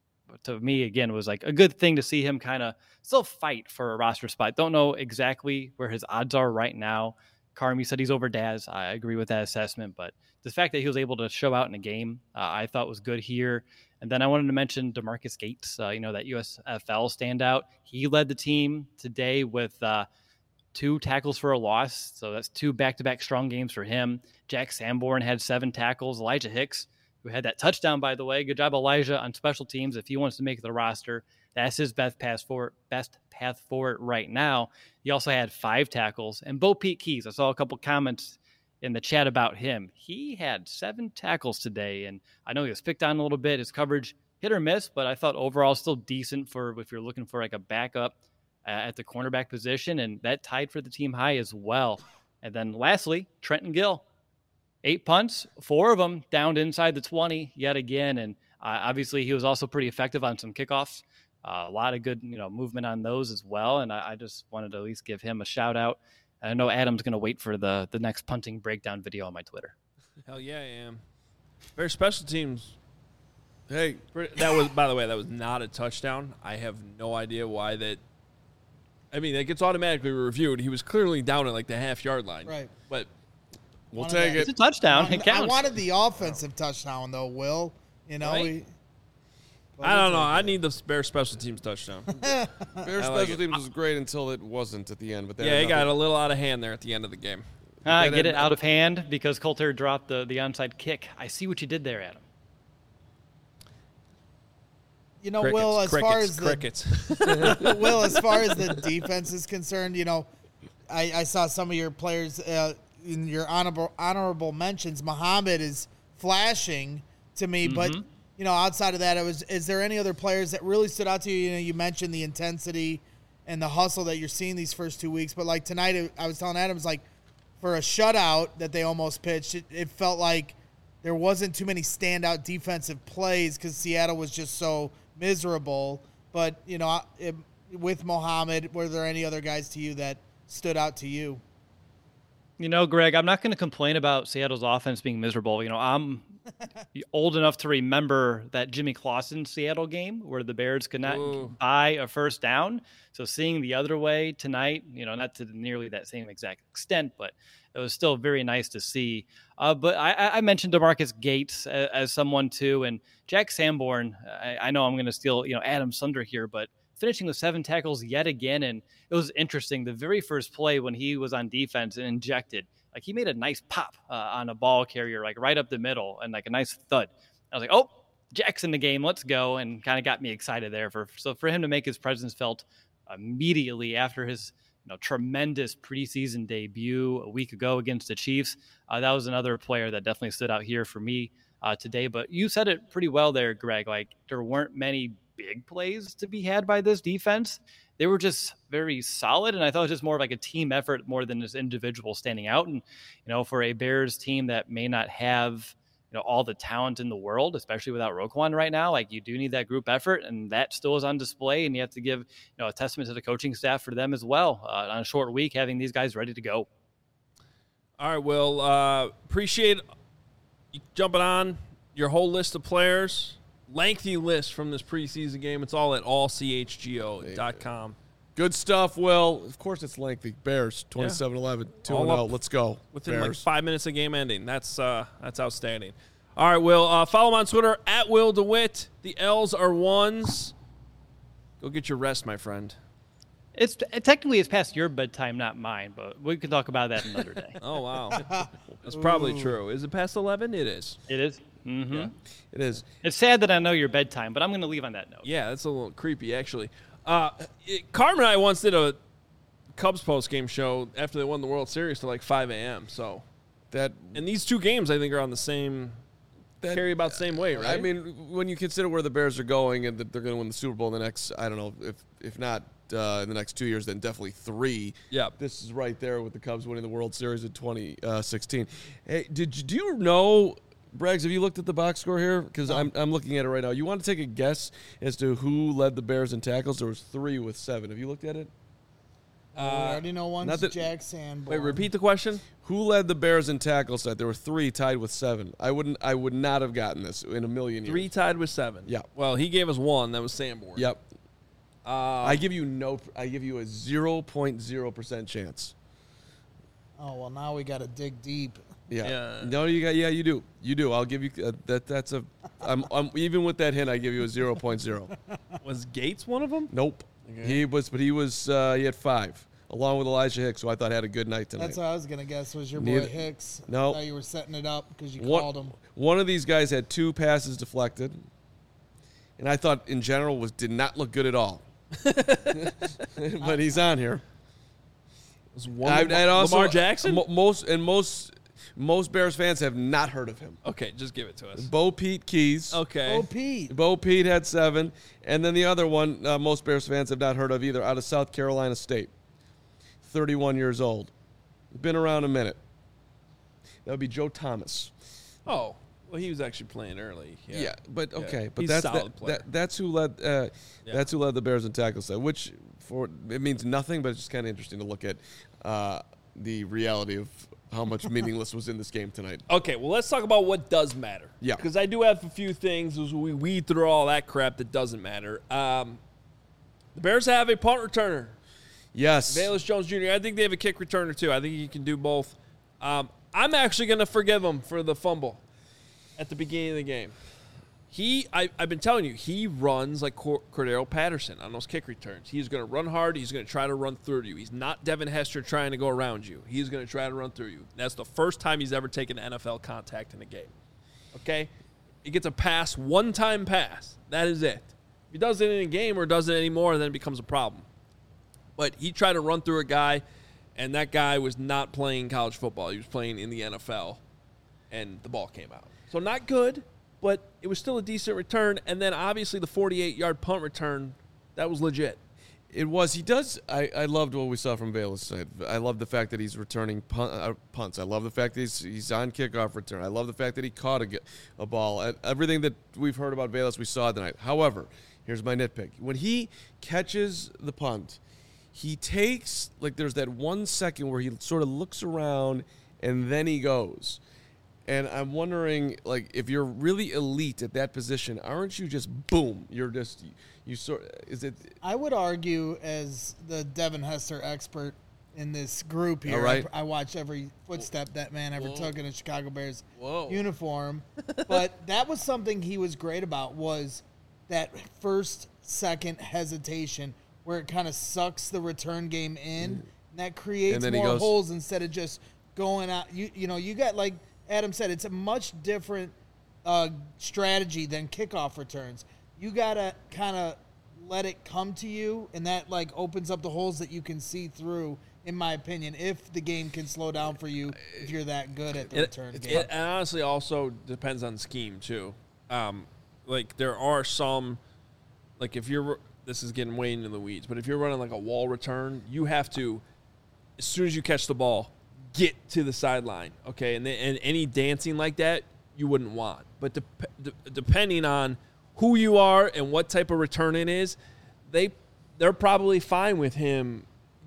to me, again, was like a good thing to see him kind of still fight for a roster spot. Don't know exactly where his odds are right now. Carmi said he's over Daz. I agree with that assessment, but the fact that he was able to show out in a game, uh, I thought was good here. And then I wanted to mention DeMarcus Gates, uh, you know, that U S F L standout. He led the team today with uh, two tackles for a loss. So that's two back-to-back strong games for him. Jack Sanborn had seven tackles. Elijah Hicks, who had that touchdown, by the way. Good job, Elijah, on special teams. If he wants to make the roster, that's his best path forward, best path forward right now. He also had five tackles. And Bo Pete Keys, I saw a couple comments in the chat about him. He had seven tackles today, and I know he was picked on a little bit. His coverage hit or miss, but I thought overall still decent for if you're looking for like a backup uh, at the cornerback position, and that tied for the team high as well. And then lastly, Trenton Gill. Eight punts, four of them downed inside the twenty yet again, and uh, obviously he was also pretty effective on some kickoffs. Uh, a lot of good, you know, movement on those as well, and I, I just wanted to at least give him a shout out. I know Adam's going to wait for the the next punting breakdown video on my Twitter. Hell yeah, I am. Very special teams. Hey, that was, by the way, that was not a touchdown. I have no idea why that. I mean, it gets automatically reviewed. He was clearly down at like the half yard line. Right. But we'll take it. It's a touchdown. I, it counts. I wanted the offensive touchdown though, Will. You know, right? we, I don't know. I need the Bears special teams touchdown. Bears special like teams was great until it wasn't at the end. But yeah, it got a little out of hand there at the end of the game. I uh, get it out of hand because Coulter dropped the, the onside kick. I see what you did there, Adam. You know, crickets, Will, as crickets, far as the crickets. Will, as far as the defense is concerned, you know, I, I saw some of your players uh, in your honorable honorable mentions. Muhammad is flashing to me, mm-hmm. but you know, outside of that, it was. Is there any other players that really stood out to you? You know, you mentioned the intensity and the hustle that you're seeing these first two weeks, but like tonight, I was telling Adams, like for a shutout that they almost pitched, it, it felt like there wasn't too many standout defensive plays because Seattle was just so miserable. But you know, it, with Muhammad, were there any other guys to you that stood out to you? You know, Greg, I'm not going to complain about Seattle's offense being miserable. You know, I'm old enough to remember that Jimmy Clausen Seattle game where the Bears could not Ooh. buy a first down. So seeing the other way tonight, you know, not to nearly that same exact extent, but it was still very nice to see. Uh, but I, I mentioned DeMarcus Gates as, as someone too, and Jack Sanborn. I, I know I'm going to steal, you know, Adam's thunder here, but finishing with seven tackles yet again. And it was interesting. The very first play when he was on defense and injected, like he made a nice pop uh, on a ball carrier, like right up the middle and like a nice thud. I was like, oh, Jack's in the game. Let's go. And kind of got me excited there. For So for him to make his presence felt immediately after his you know, tremendous preseason debut a week ago against the Chiefs, uh, that was another player that definitely stood out here for me uh, today. But you said it pretty well there, Greg. Like there weren't many big plays to be had by this defense. They were just very solid, and I thought it was just more of like a team effort more than this individual standing out. And, you know, for a Bears team that may not have, you know, all the talent in the world, especially without Roquan right now, like you do need that group effort, and that still is on display, and you have to give, you know, a testament to the coaching staff for them as well uh, on a short week, having these guys ready to go. All right, Will, uh, appreciate you jumping on your whole list of players. lengthy list from this preseason game. It's all at all c h g o dot com. Good stuff, Will. Of course it's lengthy. Bears, twenty-seven eleven, two and oh. Let's go. Within Bears. like five minutes of game ending. That's uh, that's outstanding. All right, Will. Uh, follow him on Twitter, at Will DeWitt. The L's are ones. Go get your rest, my friend. It's technically it's past your bedtime, not mine, but we can talk about that another day. Oh, wow. That's probably true. Is it past eleven? It is. It is. Mm-hmm. Yeah. It is. It's sad that I know your bedtime, but I'm going to leave on that note. Yeah, that's a little creepy, actually. Uh, it, Carmen and I once did a Cubs post-game show after they won the World Series to like five a.m. So that and these two games, I think, are on the same that, carry about the same weight, right? I mean, when you consider where the Bears are going and that they're going to win the Super Bowl in the next, I don't know, if if not uh, in the next two years, then definitely three. Yeah, this is right there with the Cubs winning the World Series in twenty sixteen. Hey, did you, do you know? Braggs, have you looked at the box score here? Because no. I'm I'm looking at it right now. You want to take a guess as to who led the Bears in tackles? There was three with seven. Have you looked at it? Uh, I already know one's that, Jack Sanborn. Wait, repeat the question. Who led the Bears in tackles? There were three tied with seven. I wouldn't. I would not have gotten this in a million years. Three tied with seven. Yeah. Well, he gave us one. That was Sanborn. Yep. Uh, I give you no. I give you a zero point zero percent chance. Oh well, now we got to dig deep. Yeah. yeah. No, you got. Yeah, you do. You do. I'll give you uh, that. That's a. I'm, I'm even with that hint. I give you a zero point zero. Was Gates one of them? Nope. Okay. He was, but he was. Uh, he had five, along with Elijah Hicks, who I thought had a good night tonight. That's what I was gonna guess. Was your Neither, boy Hicks? No. I thought you were setting it up because you one, called him. One of these guys had two passes deflected, and I thought in general was did not look good at all. But he's on here. Was one I, Lamar, also, Lamar Jackson? Mo, most and most most Bears fans have not heard of him. Okay, just give it to us. Bo Pete Keys. Okay. Oh, Pete. Bo Pete had seven, and then the other one uh, most Bears fans have not heard of either, out of South Carolina State. thirty-one years old. Been around a minute. That would be Joe Thomas. Oh, well, he was actually playing early. Yeah, Yeah, but okay, Yeah. but He's that's a solid that, player. that, that's who led. Uh, Yeah. That's who led the Bears in tackles. Which for it means nothing, but it's just kind of interesting to look at uh, the reality of how much meaningless was in this game tonight. Okay, well, let's talk about what does matter. Yeah. Because I do have a few things as we weed through all that crap that doesn't matter. Um, the Bears have a punt returner, Yes, Velus Jones Junior I think they have a kick returner, too. I think he can do both. Um, I'm actually going to forgive him for the fumble at the beginning of the game. He, I, I've been telling you, he runs like Cor- Cordero Patterson on those kick returns. He's going to run hard. He's going to try to run through you. He's not Devin Hester trying to go around you. He's going to try to run through you. That's the first time he's ever taken N F L contact in a game. Okay? He gets a pass, one-time pass. That is it. If he does it in a game or does it anymore, then it becomes a problem. But he tried to run through a guy, and that guy was not playing college football. He was playing in the N F L, and the ball came out. So not good, but it was still a decent return. And then obviously the forty-eight-yard punt return, that was legit. it was. He does. I, I loved what we saw from Velus. I, I love the fact that he's returning punt, uh, punts. I love the fact that he's, he's on kickoff return. I love the fact that he caught a, a ball. Everything that we've heard about Velus, we saw tonight. However, here's my nitpick. When he catches the punt, he takes, like, there's that one second where he sort of looks around and then he goes. And I'm wondering, like, if you're really elite at that position, aren't you just boom? You're just you sort. Is it? I would argue, as the Devin Hester expert in this group here, All right. I, I watch every footstep that man ever Whoa. took in a Chicago Bears Whoa. uniform. But that was something he was great about, was that first second hesitation where it kind of sucks the return game in, and that creates And then he more goes- holes instead of just going out. You you know you got, like Adam said, it's a much different uh, strategy than kickoff returns. You gotta kind of let it come to you, and that like opens up the holes that you can see through. In my opinion, if the game can slow down for you, if you're that good at the It, return it, game. it honestly also depends on scheme too. Um, like there are some, like if you're, this is getting way into the weeds, but if you're running like a wall return, you have to, as soon as you catch the ball, get to the sideline, okay? And then, and any dancing like that, you wouldn't want. But de- de- depending on who you are and what type of return it is, they they're probably fine with him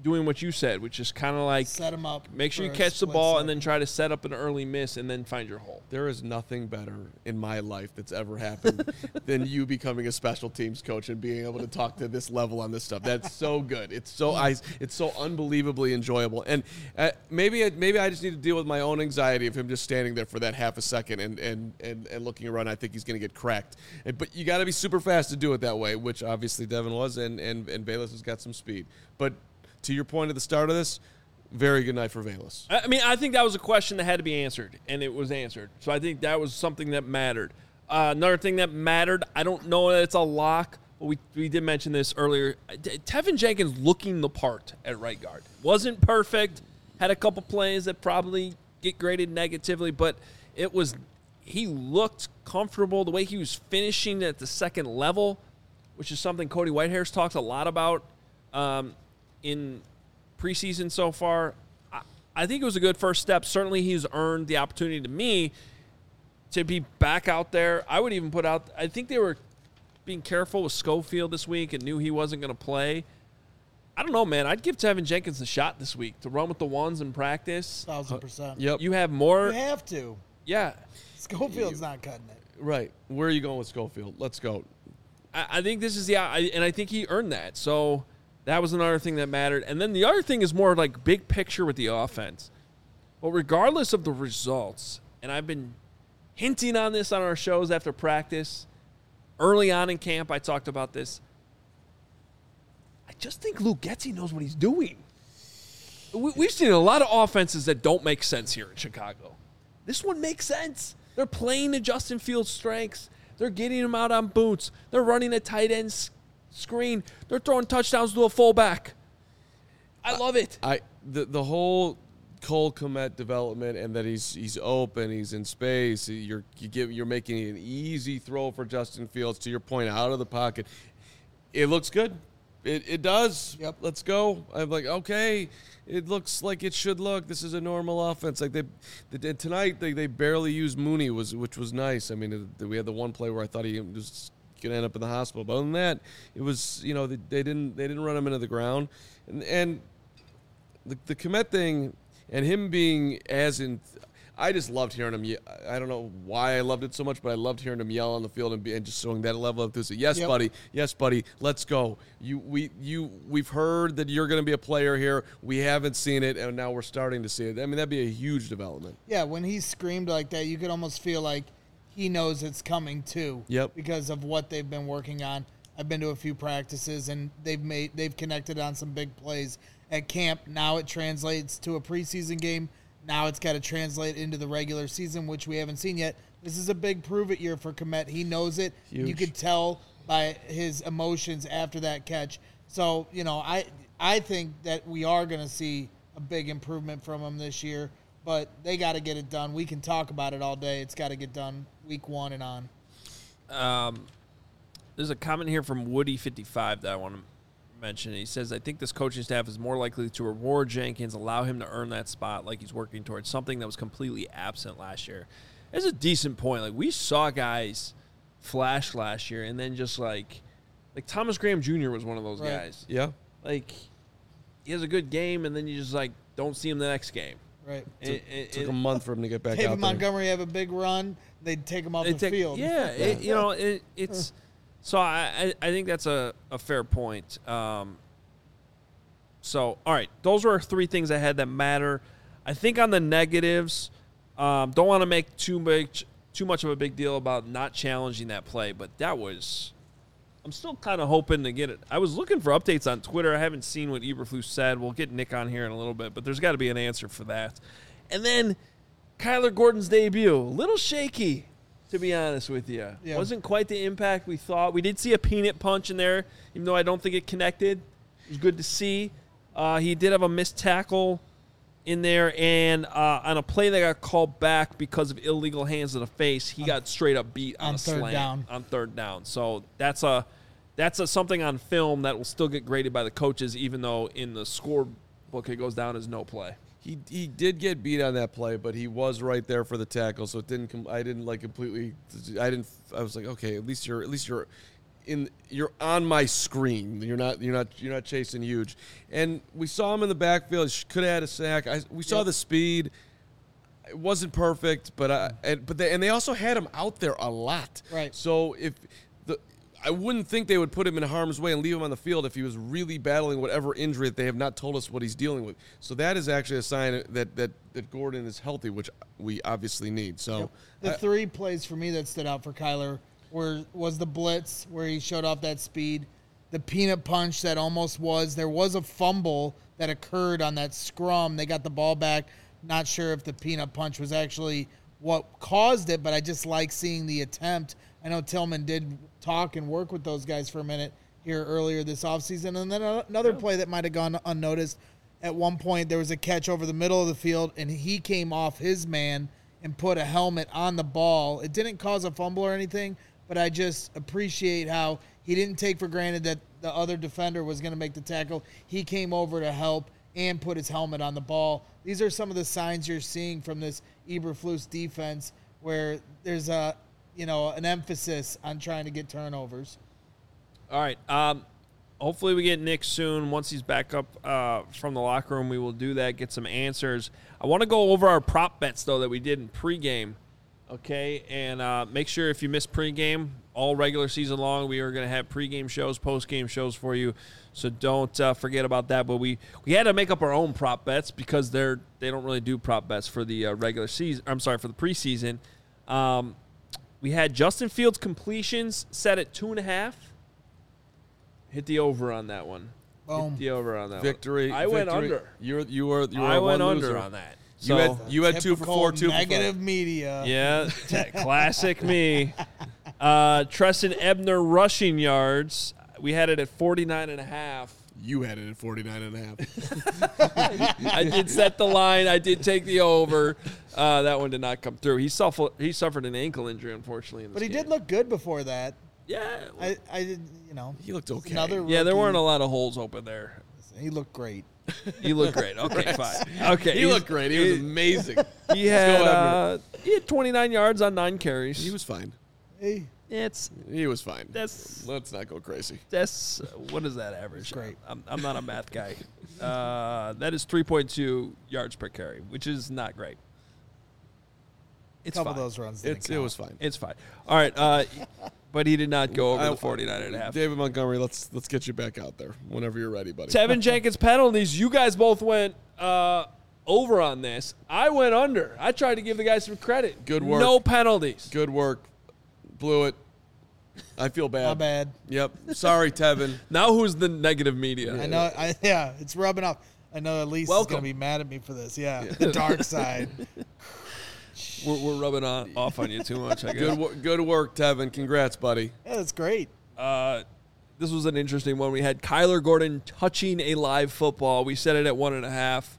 doing what you said, which is kind of like Set him up. make sure for you a catch the split ball second. and then try to set up an early miss and then find your hole. There is nothing better in my life that's ever happened than you becoming a special teams coach and being able to talk to this level on this stuff. That's so good. It's so I, it's so unbelievably enjoyable. And uh, maybe maybe I just need to deal with my own anxiety of him just standing there for that half a second and and and, and looking around. I think he's going to get cracked. And, but you got to be super fast to do it that way, which obviously Devin was, and and and Bayless has got some speed. But to your point at the start of this, very good night for Bayless. I mean, I think that was a question that had to be answered, and it was answered. So I think that was something that mattered. Uh, another thing that mattered, I don't know that it's a lock, but we, we did mention this earlier. Tevin Jenkins looking the part at right guard. Wasn't perfect, had a couple plays that probably get graded negatively, but it was he looked comfortable. The way he was finishing at the second level, which is something Cody Whitehair's talked a lot about um, in preseason so far. I, I think it was a good first step. Certainly he's earned the opportunity to me to be back out there. I would even put out, I think they were being careful with Schofield this week and knew he wasn't going to play. I don't know, man. I'd give Tevin Jenkins a shot this week to run with the ones in practice. Thousand percent. Yep. You have more. You have to. Yeah. Schofield's not cutting it. Right. Where are you going with Schofield? Let's go. I, I think this is the, I, and I think he earned that. So that was another thing that mattered. And then the other thing is more like big picture with the offense. But regardless of the results, and I've been hinting on this on our shows after practice, early on in camp, I talked about this. I just think Luke Getsy knows what he's doing. We, we've seen a lot of offenses that don't make sense here in Chicago. This one makes sense. They're playing to Justin Fields' strengths. They're getting him out on boots. They're running a tight end s- screen. They're throwing touchdowns to a fullback. I love it. I the the whole Cole Kmet development and that he's he's open, he's in space. You're you give you're making an easy throw for Justin Fields. To your point, out of the pocket, it looks good. It it does. Yep. Let's go. I'm like, okay, it looks like it should look. This is a normal offense. Like they, they tonight they, they barely used Mooney, was which was nice. I mean, it, we had the one play where I thought he was gonna end up in the hospital. But other than that, it was, you know, they, they didn't they didn't run him into the ground, and and the the Kmet thing and him being as in. I just loved hearing him. ye- I don't know why I loved it so much, but I loved hearing him yell on the field and, be, and just showing that level of enthusiasm. Yes, Yep. buddy. Yes, buddy. Let's go. You, we, you, we've heard that you're going to be a player here. We haven't seen it, and now we're starting to see it. I mean, that'd be a huge development. Yeah, when he screamed like that, you could almost feel like he knows it's coming too. Yep. Because of what they've been working on. I've been to a few practices and they've made they've connected on some big plays at camp. Now it translates to a preseason game. Now it's got to translate into the regular season, which we haven't seen yet. This is a big prove-it year for Kmet. He knows it. Huge. You could tell by his emotions after that catch. So, you know, I I think that we are going to see a big improvement from him this year, but they got to get it done. We can talk about it all day. It's got to get done week one and on. Um, there's a comment here from Woody fifty-five that I want to mention. He says, I think this coaching staff is more likely to reward Jenkins, allow him to earn that spot like he's working towards, something that was completely absent last year. It's a decent point. Like, we saw guys flash last year and then just like, like Thomas Graham Junior was one of those Right. guys. Yeah. Like, he has a good game and then you just like don't see him the next game. Right. It, it, Took it- a month for him to get back David out there. Montgomery have a big run. They'd take him off They the take- field. Yeah, it, you know, it, it's so I, I I think that's a, a fair point. Um, so all right, those were our three things I had that matter. I think on the negatives, um, don't want to make too much too much of a big deal about not challenging that play, but that was. I'm still kind of hoping to get it. I was looking for updates on Twitter. I haven't seen what Eberflus said. We'll get Nick on here in a little bit, but there's got to be an answer for that. And then Kyler Gordon's debut, a little shaky, to be honest with you. Yeah. Wasn't quite the impact we thought. We did see a peanut punch in there, even though I don't think it connected. It was good to see. Uh, he did have a missed tackle in there, and uh, on a play that got called back because of illegal hands to the face, he got straight up beat on, on a third slant down. on third down. So that's a that's a, something on film that will still get graded by the coaches, even though in the scorebook it goes down as no play. He he did get beat on that play, but he was right there for the tackle, so it didn't. Com- I didn't like completely. I didn't. I was like, okay, at least you're at least you're in you're on my screen. You're not you're not you're not chasing huge. And we saw him in the backfield. Could have had a sack. I, we saw Yep. the speed. It wasn't perfect, but I, and, but they, and they also had him out there a lot. Right. So if the I wouldn't think they would put him in harm's way and leave him on the field if he was really battling whatever injury that they have not told us what he's dealing with. So that is actually a sign that that, that Gordon is healthy, which we obviously need. So The I- three plays for me that stood out for Kyler were was the blitz where he showed off that speed, the peanut punch that almost was. There was a fumble that occurred on that scrum. They got the ball back. Not sure if the peanut punch was actually what caused it, but I just like seeing the attempt. I know Tillman did talk and work with those guys for a minute here earlier this offseason. And then another play that might have gone unnoticed. At one point, there was a catch over the middle of the field, and he came off his man and put a helmet on the ball. It didn't cause a fumble or anything, but I just appreciate how he didn't take for granted that the other defender was going to make the tackle. He came over to help and put his helmet on the ball. These are some of the signs you're seeing from this Eberflus defense where there's a, you know, an emphasis on trying to get turnovers. All right. Um, hopefully we get Nick soon. Once he's back up uh, from the locker room, we will do that, get some answers. I want to go over our prop bets, though, that we did in pregame, okay? And uh, make sure if you missed pregame, all regular season long, we are going to have pregame shows, postgame shows for you. So don't uh, forget about that. But we, we had to make up our own prop bets because they're they don't really do prop bets for the uh, regular season. I'm sorry, for the preseason. Um, we had Justin Fields completions set at two and a half. Hit the over on that one. Boom. Hit the over on that victory. one. I went victory. under. You're you were you were I a went one under loser. on that. You So, had you had two for Typical four, two negative for media. yeah, t- classic me. Uh, Treston Ebner rushing yards. We had it at forty-nine and a half. five. You had it at forty-nine and a half. I did set the line. I did take the over. Uh, that one did not come through. He suffered. He suffered an ankle injury, unfortunately. In this But he game. did look good before that. Yeah. I, I did, you know. He looked okay. Another yeah, there rookie. weren't a lot of holes open there. He looked great. You look great. Okay, fine. Okay, He he's- looked great. He was amazing. He had Ebner. uh, he had twenty-nine yards on nine carries. He was fine. Hey, It's He was fine. that's Let's not go crazy. that's what is that average? Great. I'm, I'm not a math guy. Uh, that is three point two yards per carry, which is not great. a It's couple fine. of those runs. didn't It's it count. was fine. It's fine. All right, uh, but he did not go over I- the forty-nine and a half. David Montgomery, let's let's get you back out there whenever you're ready, buddy. Tevin Jenkins penalties. You guys both went uh, over on this. I went under. I tried to give the guys some credit. Good work. No penalties. Good work. Blew it. I feel bad. Not bad. Yep. Sorry, Tevin. Now who's the negative media? I know. I, yeah, it's rubbing off. I know Elise is Welcome. going to be mad at me for this. Yeah, the dark side. We're, we're rubbing on, off on you too much, I guess. Good wo- good work, Tevin. Congrats, buddy. Yeah, that's great. Uh, this was an interesting one. We had Kyler Gordon touching a live football. We set it at one and a half.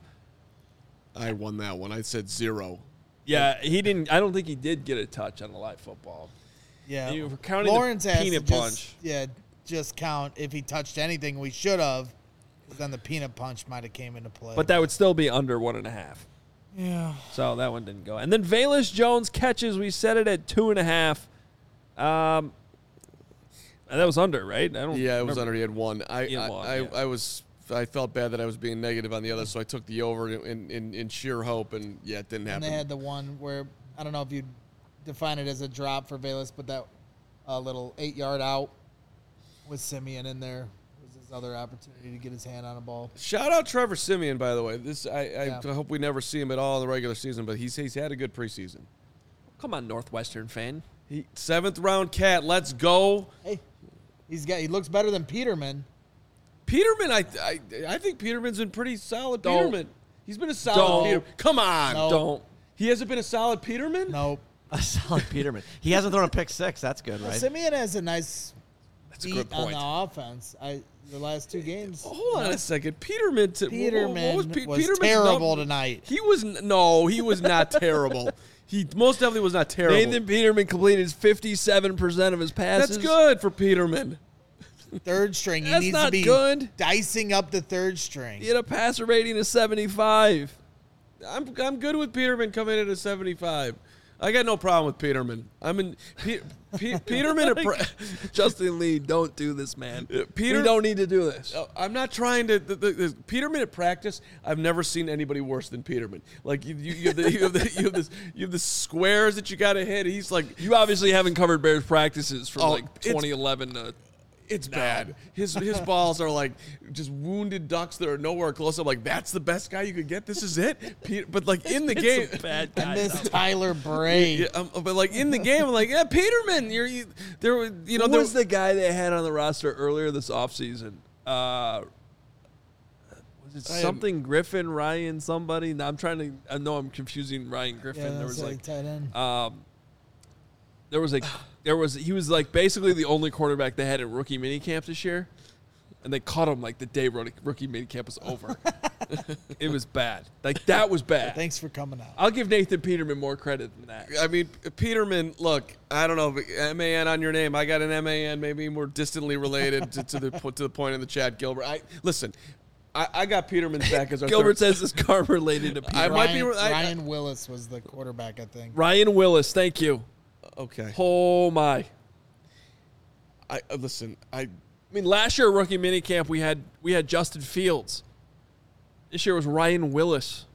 I won that one. I said zero. Yeah, he didn't. I don't think he did get a touch on a live football. Yeah, You were counting Lawrence the has peanut to just, punch. Yeah, just count if he touched anything. We should have. Then the peanut punch might have came into play. But that would still be under one and a half. yeah, So that one didn't go. And then Velus Jones catches. We set it at two and a half. Um, and that was under, right? I don't. Yeah, it was remember. under. He had one. I He had I, one, I, yeah. I was I felt bad that I was being negative on the other, so I took the over in in, in sheer hope, and yeah, it didn't and happen. they had the one where I don't know if you'd define it as a drop for Velus, but that uh, little eight-yard out with Simeon in there was his other opportunity to get his hand on a ball. Shout out Trevor Simeon, by the way. This I, I Yeah. hope we never see him at all in the regular season, but he's he's had a good preseason. Come on, Northwestern fan. He, seventh round cat. Let's go. Hey, he's got he looks better than Peterman. Peterman, I I, I think Peterman's been pretty solid. Don't. Peterman, he's been a solid. Don't. Peter. Come on, No. Don't. he hasn't been a solid Peterman. Nope. A solid Peterman. He hasn't thrown a pick six. That's good, Well, right? Simeon has a nice That's a beat good on point. the offense. I the last two games. Hold on a second, Peterman. T- Peterman what was, Pe- Peterman's terrible num- tonight. He was n- no, he was not terrible. He most definitely was not terrible. Nathan Peterman completed fifty-seven percent of his passes. That's good for Peterman. Third string. He That's needs not to be good. dicing up the third string. He had a passer rating of seventy-five. I'm I'm good with Peterman coming in at a seventy-five. I got no problem with Peterman. I'm in Pe- Pe- Peterman. At pra- Justin Lee, don't do this, man. Uh, Peter- we don't need to do this. Uh, I'm not trying to. The, the, the, Peterman at practice, I've never seen anybody worse than Peterman. Like you, you, you, have, the, you, have, the, you have this, you have the squares that you got to hit. He's like, You obviously haven't covered Bears practices from Oh, like it's- twenty eleven to. it's No. bad. His his balls are like just wounded ducks that are nowhere close. I'm like, that's the best guy you could get. This is it. Peter, but like in the game, Some bad I guys. miss Tyler Bray. yeah, um, but like in the game, I'm like, yeah, Peterman. You're you, there. were- You know, Who there was the guy they had on the roster earlier this offseason? Uh, was it I am- something Griffin, Ryan, somebody? No, I'm trying to. I know I'm confusing Ryan Griffin. Yeah, there that's was like like, tight end. um, there was like, there was he was like basically the only quarterback they had in rookie minicamp this year, and they caught him like the day rookie rookie minicamp was over. It was bad. Like that was bad. Thanks for coming out. I'll give Nathan Peterman more credit than that. I mean, Peterman, look, I don't know, but M A N on your name. I got an M A N, maybe more distantly related to, to the to the point in the chat, Gilbert. I Listen, I, I got Peterman's back as our Gilbert third. says this car related to Peter. I might be- Ryan, I- Ryan Willis was the quarterback, I think. Ryan Willis, thank you. Okay. Oh my. I uh, Listen, I I mean, last year rookie minicamp we had we had Justin Fields. This year was Ryan Willis.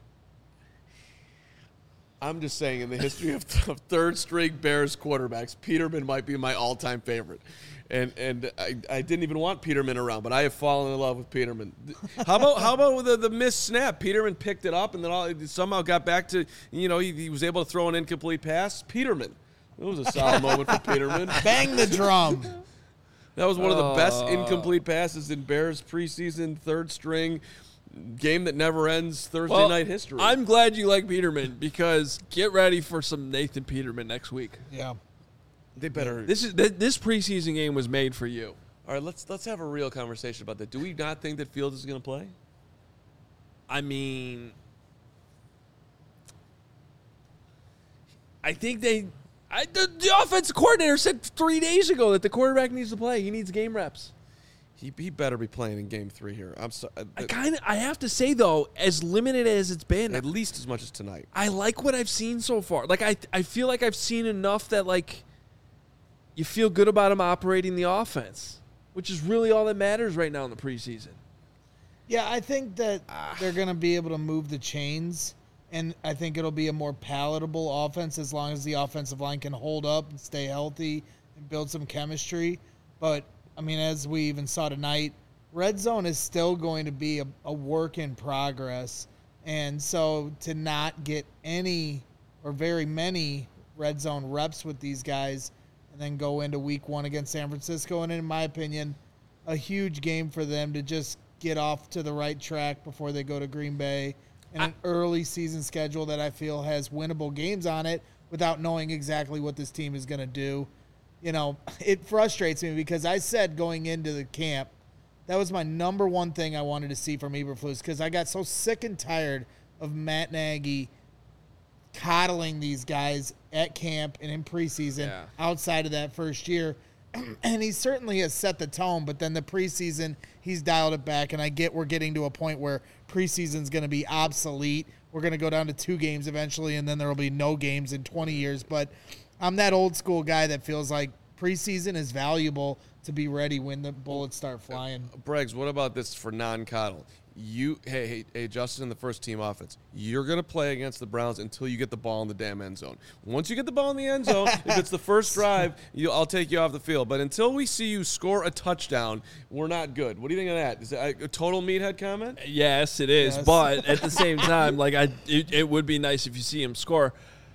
I'm just saying, in the history of, of third-string Bears quarterbacks, Peterman might be my all-time favorite. And and I, I didn't even want Peterman around, but I have fallen in love with Peterman. How about how about the, the missed snap? Peterman picked it up and then all, somehow got back to, you know, he, he was able to throw an incomplete pass. Peterman. It was a solid moment for Peterman. Bang the drum. That was one of the best Uh. incomplete passes in Bears preseason, third string, game that never ends, Thursday Well, night history. I'm glad you like Peterman because get ready for some Nathan Peterman next week. Yeah. they better. This is th- this preseason game was made for you. All right, let's let's have a real conversation about that. Do we not think that Fields is going to play? I mean, I think they. I, the, the offensive coordinator said three days ago that the quarterback needs to play. He needs game reps. He, he better be playing in Game Three here. I'm sorry. I kind of. I have to say though, as limited as it's been, At least as much as tonight. I like what I've seen so far. Like I, I feel like I've seen enough that like you feel good about him operating the offense, which is really all that matters right now in the preseason. Yeah, I think that they're going to be able to move the chains, and I think it'll be a more palatable offense as long as the offensive line can hold up and stay healthy and build some chemistry. But, I mean, as we even saw tonight, red zone is still going to be a, a work in progress. And so to not get any or very many red zone reps with these guys and then go into week one against San Francisco, and in my opinion, a huge game for them to just get off to the right track before they go to Green Bay, and an early season schedule that I feel has winnable games on it without knowing exactly what this team is going to do. You know, it frustrates me because I said going into the camp, that was my number one thing I wanted to see from Eberflus, because I got so sick and tired of Matt Nagy coddling these guys at camp and in preseason Yeah. outside of that first year. And he certainly has set the tone, but then the preseason, he's dialed it back. And I get we're getting to a point where preseason's going to be obsolete. We're going to go down to two games eventually, and then there will be no games in twenty years. But I'm that old school guy that feels like preseason is valuable to be ready when the bullets start flying. Briggs, what about this for non-coddle? You, hey, hey, hey, Justin, in the first team offense, you're going to play against the Browns until you get the ball in the damn end zone. Once you get the ball in the end zone, if it's the first drive, you, I'll take you off the field. But until we see you score a touchdown, we're not good. What do you think of that? Is that a total meathead comment? Yes, it is. Yes. But at the same time, like I, it, it would be nice if you see him score.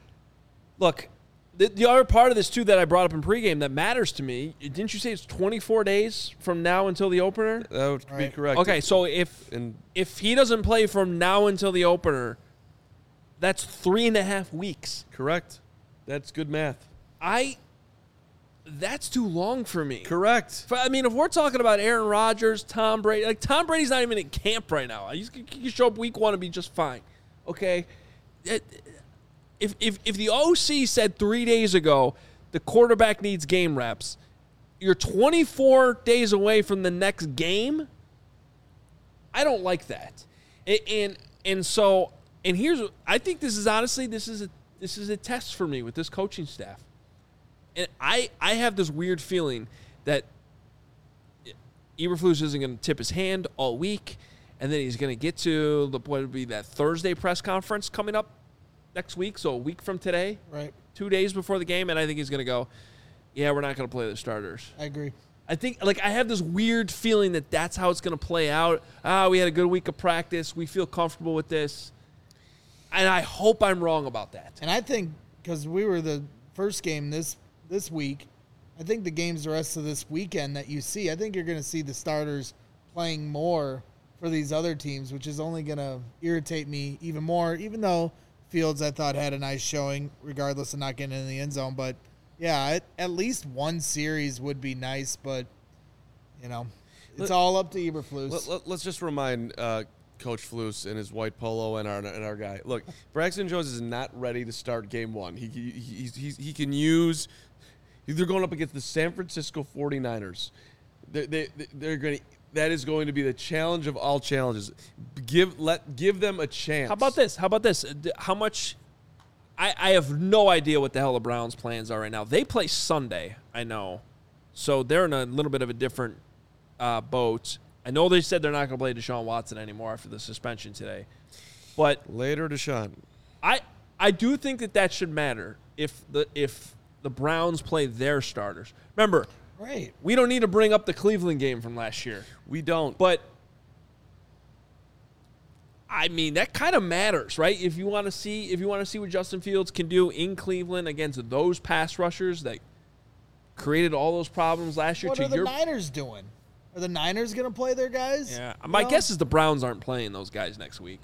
Look, the, the other part of this too that I brought up in pregame that matters to me. Didn't you say it's twenty-four days from now until the opener? That would be Right. correct. Okay, so if And if he doesn't play from now until the opener, that's three and a half weeks. correct. That's good math. I. That's too long for me. Correct. But, I mean, if we're talking about Aaron Rodgers, Tom Brady, like Tom Brady's not even in camp right now. He's, he can show up week one and be just fine. Okay? It, if, if, if the O C said three days ago the quarterback needs game reps, you're twenty-four days away from the next game, I don't like that. And, and, and so, and here's, I think this is honestly, this is a, this is a test for me with this coaching staff. And I, I have this weird feeling that Eberflus isn't going to tip his hand all week, and then he's going to get to the what would be that Thursday press conference coming up next week, so a week from today, Right. two days before the game, and I think he's going to go, yeah, we're not going to play the starters. I agree. I think, like, I have this weird feeling that that's how it's going to play out. Ah, we had a good week of practice. We feel comfortable with this. And I hope I'm wrong about that. And I think because we were the first game this this week, I think the games the rest of this weekend that you see, I think you're going to see the starters playing more for these other teams, which is only going to irritate me even more, even though Fields, I thought, had a nice showing, regardless of not getting in the end zone. But, yeah, it, at least one series would be nice, but, you know, it's Let, all up to Eberflus. Let, let, let's just remind uh, Coach Flus and his white polo and our and our guy. Look, Braxton Jones is not ready to start game one. He he he, he, he can use – they're going up against the San Francisco forty-niners. They, they, they're going to – that is going to be the challenge of all challenges. Give let give them a chance. How about this? How about this? How much – I I have no idea what the hell the Browns' plans are right now. They play Sunday, I know. So they're in a little bit of a different uh, boat. I know they said they're not going to play Deshaun Watson anymore after the suspension today. But Later, Deshaun. I I do think that that should matter if the if the Browns play their starters. Remember, Right. we don't need to bring up the Cleveland game from last year. We don't. But I mean, that kind of matters, right? If you want to see if you want to see what Justin Fields can do in Cleveland against those pass rushers that created all those problems last year What to are the your Niners doing? Are the Niners going to play their guys? Yeah. You My know? guess is the Browns aren't playing those guys next week.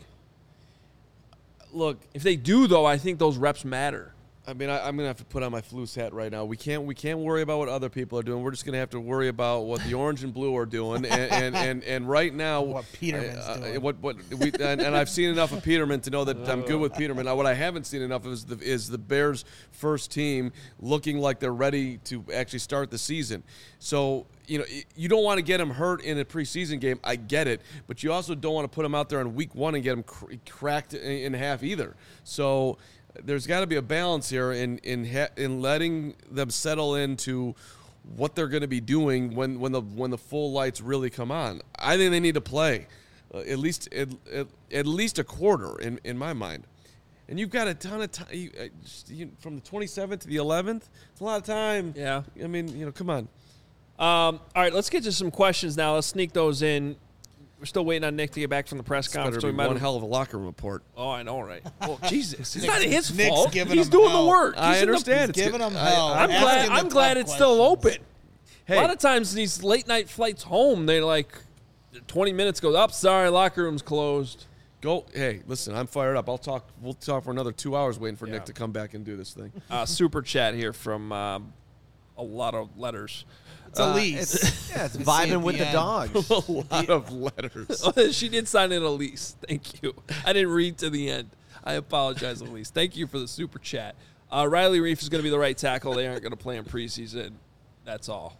Look, If they do, though, I think those reps matter. I mean, I, I'm gonna have to put on my Flus hat right now. We can't, we can't worry about what other people are doing. We're just gonna have to worry about what the orange and blue are doing. And and, and, and right now, What Peterman's uh, doing. What what we and, and I've seen enough of Peterman to know that I'm good with Peterman. Now, what I haven't seen enough of is the is the Bears' first team looking like they're ready to actually start the season. So. You know, you don't want to get him hurt in a preseason game. I get it, but you also don't want to put him out there in week one and get him cr- cracked in, in half either. So there's got to be a balance here in in ha- in letting them settle into what they're going to be doing when, when the when the full lights really come on. I think they need to play uh, at least at, at, at least a quarter in, in my mind. And you've got a ton of time you, uh, just, you, from the twenty-seventh to the eleventh. It's a lot of time. Yeah. I mean, you know, come on. Um, all right, let's get to some questions now. Let's sneak those in. We're still waiting on Nick to get back from the press It's better conference. so be we might one have- hell of a locker room report. Oh, I know, right? Well, Jesus, it's Nick's- not his Nick's fault. giving He's him doing hell. the work. I He's in the- understand. It's giving good. them I- hell. I- I'm Asking glad. the I'm glad tough it's still questions. open. Hey. A lot of times these late night flights home, they're like twenty minutes goes up. Sorry, locker room's closed. Go. Hey, listen, I'm fired up. I'll talk. We'll talk for another two hours waiting for Yeah. Nick to come back and do this thing. Uh, super chat here from um, a lot of letters. It's Elise. It's, yeah, it's See vibing at with the the end. dogs. a lot of letters. She did sign in Elise. Thank you. I didn't read to the end. I apologize, Elise. Thank you for the super chat. Uh, Riley Reif is going to be the right tackle. They aren't going to play in preseason. That's all.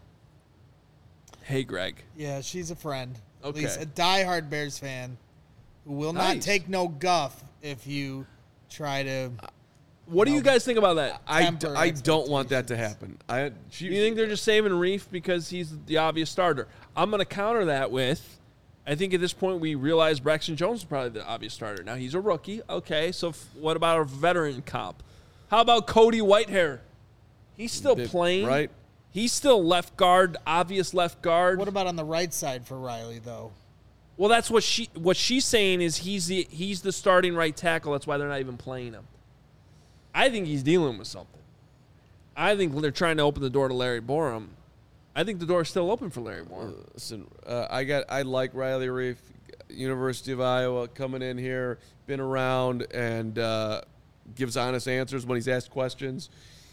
Hey, Greg. Yeah, she's a friend. At Okay. least a diehard Bears fan who will not Nice. take no guff if you try to. What do you guys think about that? I, d- Temper I don't want that to expectations. happen. I. She, Do you think they're just saving Reif because he's the obvious starter? I'm going to counter that with, I think at this point we realize Braxton Jones is probably the obvious starter. Now, he's a rookie. Okay, so f- what about a veteran comp? How about Cody Whitehair? He's still Bit- playing. right? He's still left guard, obvious left guard. What about on the right side for Riley though? Well, that's what she what she's saying is he's the he's the starting right tackle. That's why they're not even playing him. I think he's dealing with something. I think they're trying to open the door to Larry Borum. I think the door is still open for Larry Borum. Listen, uh, I got. I like Riley Reif, University of Iowa, coming in here, been around, and uh, gives honest answers when he's asked questions.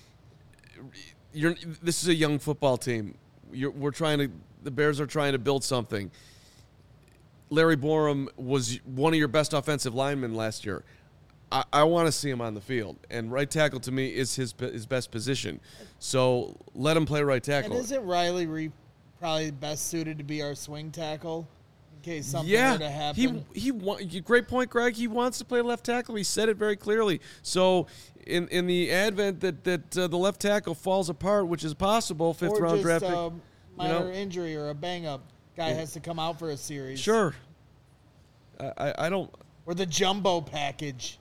You're. This is a young football team. You're, we're trying to. The Bears are trying to build something. Larry Borum was one of your best offensive linemen last year. I, I want to see him on the field, and right tackle to me is his his best position. So let him play right tackle. And isn't Riley Reef probably best suited to be our swing tackle? in case something Yeah, were to happen. he he. wa- Great point, Greg. He wants to play left tackle. He said it very clearly. So, in in the advent that that uh, the left tackle falls apart, which is possible, fifth or round just draft pick. a minor know? injury or a bang up, guy Yeah. has to come out for a series. Sure. I, I I don't. Or the jumbo package.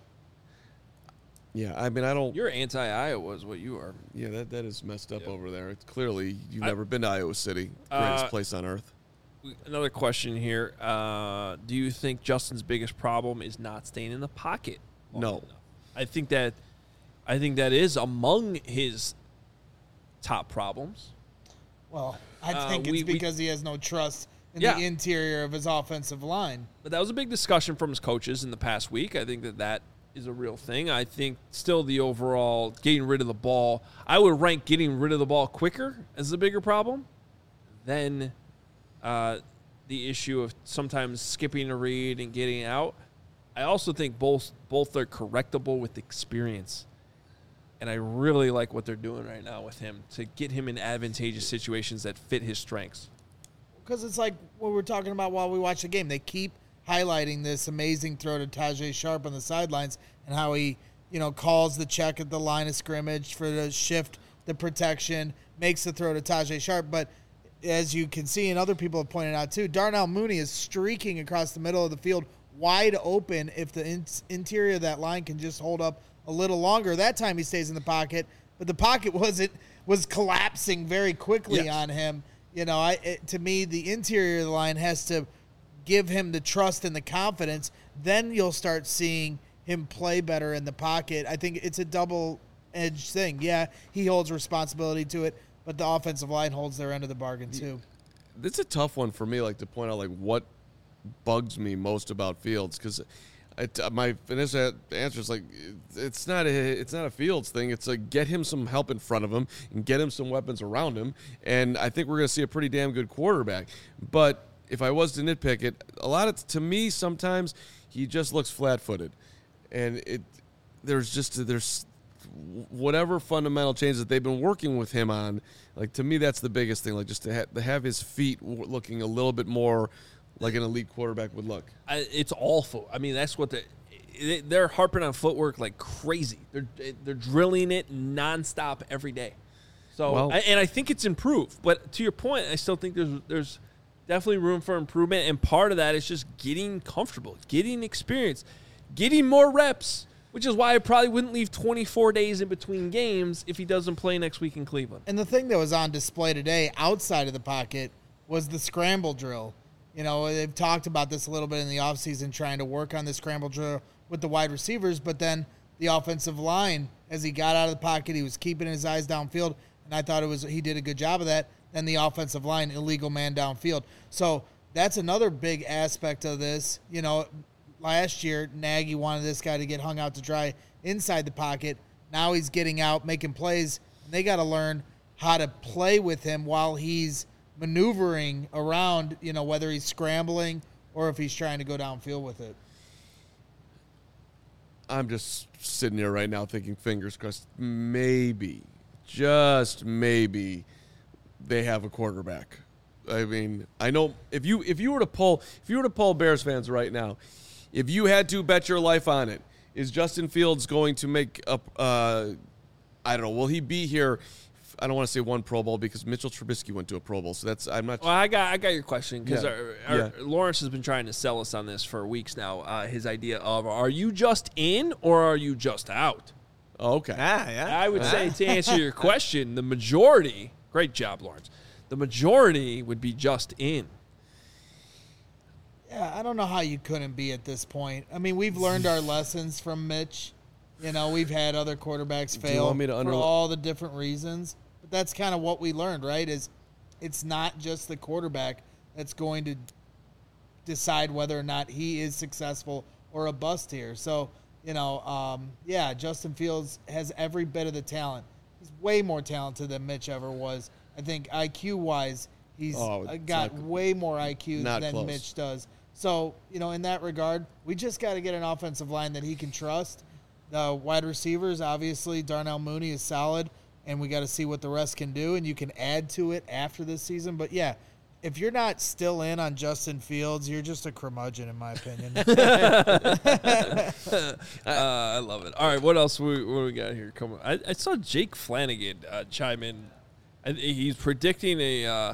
Yeah, I mean, I don't. You're anti-Iowa is what you are. Yeah, that that is messed up over there. It's clearly you've I- never been to Iowa City, greatest Uh, place on earth. Another question here. Uh, do you think Justin's biggest problem is not staying in the pocket? long No. enough? I think that I think that is among his top problems. Well, I Uh, think we- it's we- because he has no trust in Yeah. the interior of his offensive line. But that was a big discussion from his coaches in the past week. I think that that is a real thing. I think still the overall getting rid of the ball, I would rank getting rid of the ball quicker as the bigger problem than uh, the issue of sometimes skipping a read and getting out. I also think both both are correctable with experience. And I really like what they're doing right now with him to get him in advantageous situations that fit his strengths. Because it's like what we were talking about while we watched the game. They keep highlighting this amazing throw to Tajay Sharp on the sidelines and how he, you know, calls the check at the line of scrimmage for the shift, the protection, makes the throw to Tajay Sharp. But as you can see, and other people have pointed out too, Darnell Mooney is streaking across the middle of the field wide open if the in- interior of that line can just hold up a little longer. That time he stays in the pocket, but the pocket wasn't was collapsing very quickly Yes. on him. You know, I it, to me, the interior of the line has to give him the trust and the confidence. Then you'll start seeing him play better in the pocket. I think it's a double-edged thing. Yeah, he holds responsibility to it, but the offensive line holds their end of the bargain too. It's a tough one for me, like to point out like what bugs me most about Fields because my initial answer is like it's not a it's not a Fields thing. It's like get him some help in front of him and get him some weapons around him, and I think we're going to see a pretty damn good quarterback. But if I was to nitpick it, a lot of to me sometimes he just looks flat-footed, and it there's just there's whatever fundamental changes that they've been working with him on. Like to me, that's the biggest thing. Like just to, ha- to have his feet w- looking a little bit more like an elite quarterback would look. I, it's awful. I mean, that's what the they're harping on footwork like crazy. They're they're drilling it nonstop every day. So, Well- I, and I think it's improved. But to your point, I still think there's there's definitely room for improvement. And part of that is just getting comfortable, getting experience, getting more reps. Which is why I probably wouldn't leave twenty-four days in between games if he doesn't play next week in Cleveland. And the thing that was on display today outside of the pocket was the scramble drill. You know, they've talked about this a little bit in the offseason, trying to work on the scramble drill with the wide receivers, but then the offensive line, as he got out of the pocket, he was keeping his eyes downfield, and I thought it was he did a good job of that. Then the offensive line, illegal man downfield. So that's another big aspect of this. You know, last year, Nagy wanted this guy to get hung out to dry inside the pocket. Now he's getting out, making plays, and they got to learn how to play with him while he's maneuvering around, you know, whether he's scrambling or if he's trying to go downfield with it. I'm just sitting here right now thinking, fingers crossed, maybe, just maybe, they have a quarterback. I mean, I know if you if you were to poll if you were to poll Bears fans right now, if you had to bet your life on it, is Justin Fields going to make up? Uh, I don't know. Will he be here? I don't want to say one Pro Bowl because Mitchell Trubisky went to a Pro Bowl, so that's I'm not. Well, I got I got your question because Yeah. our, our, Yeah. Lawrence has been trying to sell us on this for weeks now. Uh, his idea of are you just in or are you just out? Oh, okay. Yeah, yeah. I would say to answer your question, the majority. Great job, Lawrence. The majority would be just in. Yeah, I don't know how you couldn't be at this point. I mean, we've learned our lessons from Mitch. You know, we've had other quarterbacks you fail want me to for underli- all the different reasons. But that's kind of what we learned, right? Is it's not just the quarterback that's going to decide whether or not he is successful or a bust here. So, you know, um, yeah, Justin Fields has every bit of the talent. He's way more talented than Mitch ever was. I think I Q-wise, he's Oh, uh, it's got not- way more I Q not than close. Mitch does. So, you know, in that regard, we just got to get an offensive line that he can trust. The wide receivers, obviously, Darnell Mooney is solid, and we got to see what the rest can do, and you can add to it after this season. But, yeah, if you're not still in on Justin Fields, you're just a curmudgeon, in my opinion. uh, I love it. All right, what else we, what do we got here? Come on. I, I saw Jake Flanagan uh, chime in. I, he's predicting a, uh,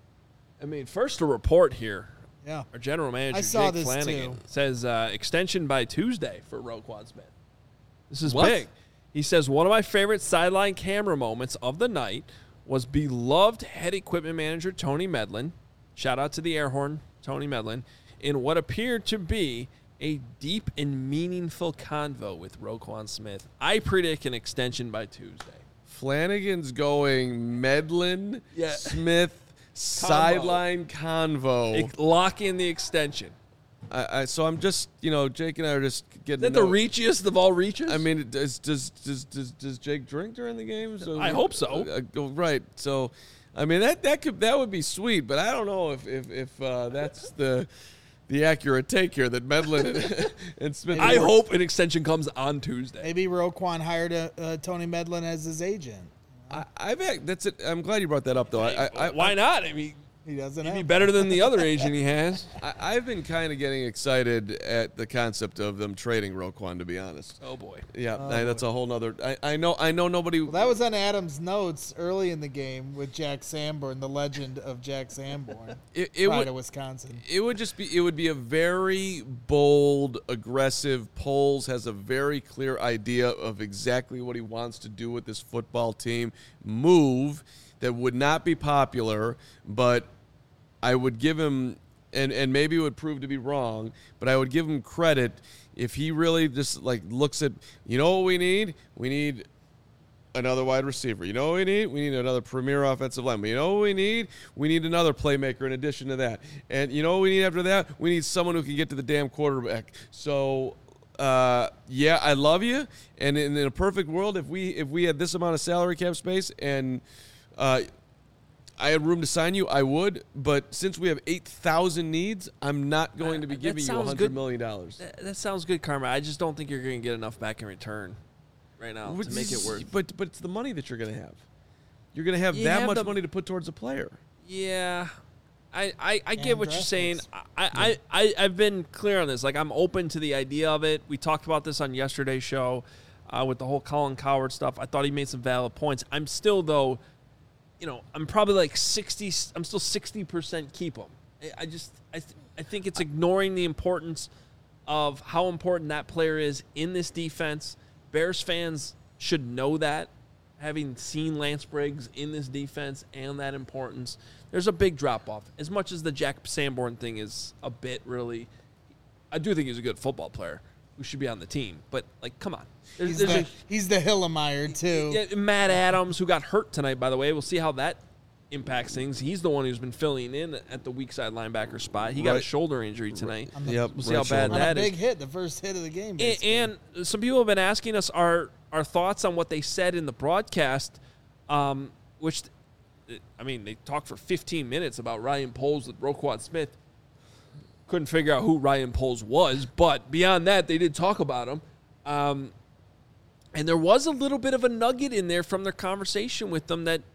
I mean, first a report here. Yeah. Our general manager, I saw Jake this Flanagan, too. says uh, extension by Tuesday for Roquan Smith. This is What? big. He says, one of my favorite sideline camera moments of the night was beloved head equipment manager Tony Medlin, shout out to the air horn, Tony Medlin, in what appeared to be a deep and meaningful convo with Roquan Smith. I predict an extension by Tuesday. Flanagan's going Medlin, Yeah. Smith, sideline convo. Ex- Lock in the extension. I, I, so I'm just, you know, Jake and I are just getting. Is that to the know- reachiest of all reaches? I mean, does does does does, does Jake drink during the game? So I hope so. Uh, go right. So, I mean that that could that would be sweet, but I don't know if if if uh, that's the the accurate take here that Medlin and, and Smith. I were- hope an extension comes on Tuesday. Maybe Roquan hired a, uh, Tony Medlin as his agent. I, I've act- that's it. I'm glad you brought that up though. I, I, I Why not? I mean, He doesn't he'd have be better than the other agent he has. I, I've been kind of getting excited at the concept of them trading Roquan, to be honest. Oh boy. Yeah, I- that's a whole nother. I, I know. I know nobody. Well, that was on Adam's notes early in the game with Jack Sanborn, the legend of Jack Sanborn, it, it pride would. of Wisconsin. It would just be. It would be a very bold, aggressive. Poles has a very clear idea of exactly what he wants to do with this football team. Move that would not be popular, but I would give him, and and maybe it would prove to be wrong, but I would give him credit if he really just like looks at. You know what we need? We need another wide receiver. You know what we need? We need another premier offensive lineman. You know what we need? We need another playmaker in addition to that. And you know what we need after that? We need someone who can get to the damn quarterback. So, uh, yeah, I love you. And in, in a perfect world, if we if we had this amount of salary cap space and uh, I had room to sign you, I would. But since we have eight thousand needs, I'm not going to be Uh, that giving you sounds one hundred good. million dollars. That, that sounds good, Karma. I just don't think you're going to get enough back in return right now to make it work. But but it's the money that you're going to have. You're going to have You that have much the- money to put towards a player. Yeah. I, I, I get And what you're draft saying. picks. I, I, I, I've been clear on this. Like, I'm open to the idea of it. We talked about this on yesterday's show uh, with the whole Colin Coward stuff. I thought he made some valid points. I'm still, though, you know, I'm probably like sixty. I'm still sixty percent keep him. I, I just, I, th- I think it's ignoring the importance of how important that player is in this defense. Bears fans should know that, having seen Lance Briggs in this defense and that importance. There's a big drop-off. As much as the Jack Sanborn thing is a bit really, I do think he's a good football player who should be on the team. But, like, come on. There's, He's there's the, a, he's the Hillemeyer, too. yeah, Matt Adams, who got hurt tonight, by the way. We'll see how that impacts things. He's the one who's been filling in at the weak side linebacker spot. He got a Right. shoulder injury tonight. On the- Yep. We'll see how bad On a that is. big hit, the first hit of the game. And, basically. and some people have been asking us our our thoughts on what they said in the broadcast, um, which, I mean, they talked for fifteen minutes about Ryan Poles with Roquan Smith. Couldn't figure out who Ryan Poles was, but beyond that, they did talk about him. Um, and there was a little bit of a nugget in there from their conversation with them that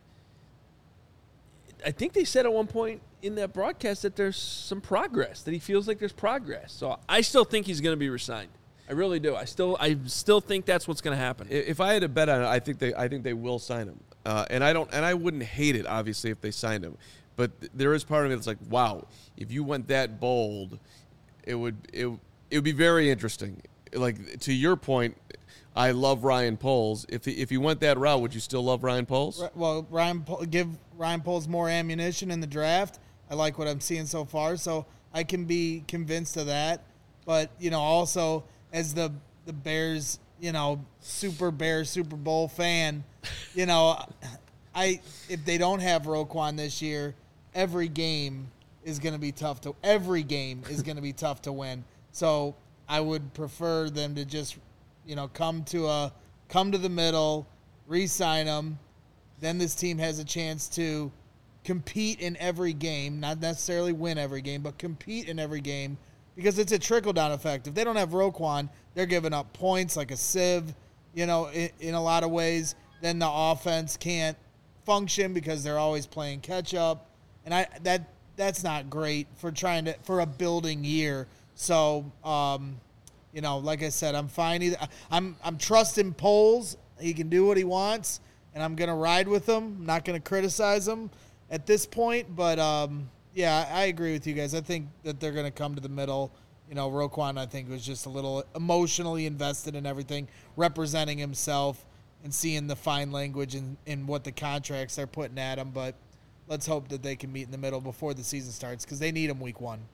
I think they said at one point in that broadcast that there's some progress, that he feels like there's progress. So I still think he's going to be resigned. I really do. I still, I still think that's what's going to happen. I- If I had to bet on it, I think they, I think they will sign him. Uh, and I don't, and I wouldn't hate it, obviously, if they signed him. But th- there is part of me that's like, wow, if you went that bold, it would, it, it would be very interesting. Like to your point, I love Ryan Poles. If he, if he went that route, would you still love Ryan Poles? Ri- Well, Ryan Po- give Ryan Poles more ammunition in the draft. I like what I'm seeing so far, so I can be convinced of that. But you know, also as the the Bears, you know, Super Bear Super Bowl fan, you know, I if they don't have Roquan this year, every game is going to be tough to every game is going to be tough to win. So I would prefer them to just, you know, come to a come to the middle, re-sign them. Then this team has a chance to compete in every game, not necessarily win every game, but compete in every game because it's a trickle-down effect. If they don't have Roquan, they're giving up points like a sieve, you know, in, in a lot of ways. Then the offense can't function because they're always playing catch-up. And I that that's not great for trying to for a building year. So, um, you know, like I said, I'm fine. Either I'm I'm trusting Poles. He can do what he wants, and I'm gonna ride with him. I'm not gonna criticize him at this point. But um, yeah, I agree with you guys. I think that they're gonna come to the middle. You know, Roquan, I think, was just a little emotionally invested in everything, representing himself and seeing the fine language in, in what the contracts are putting at him. But let's hope that they can meet in the middle before the season starts because they need him week one.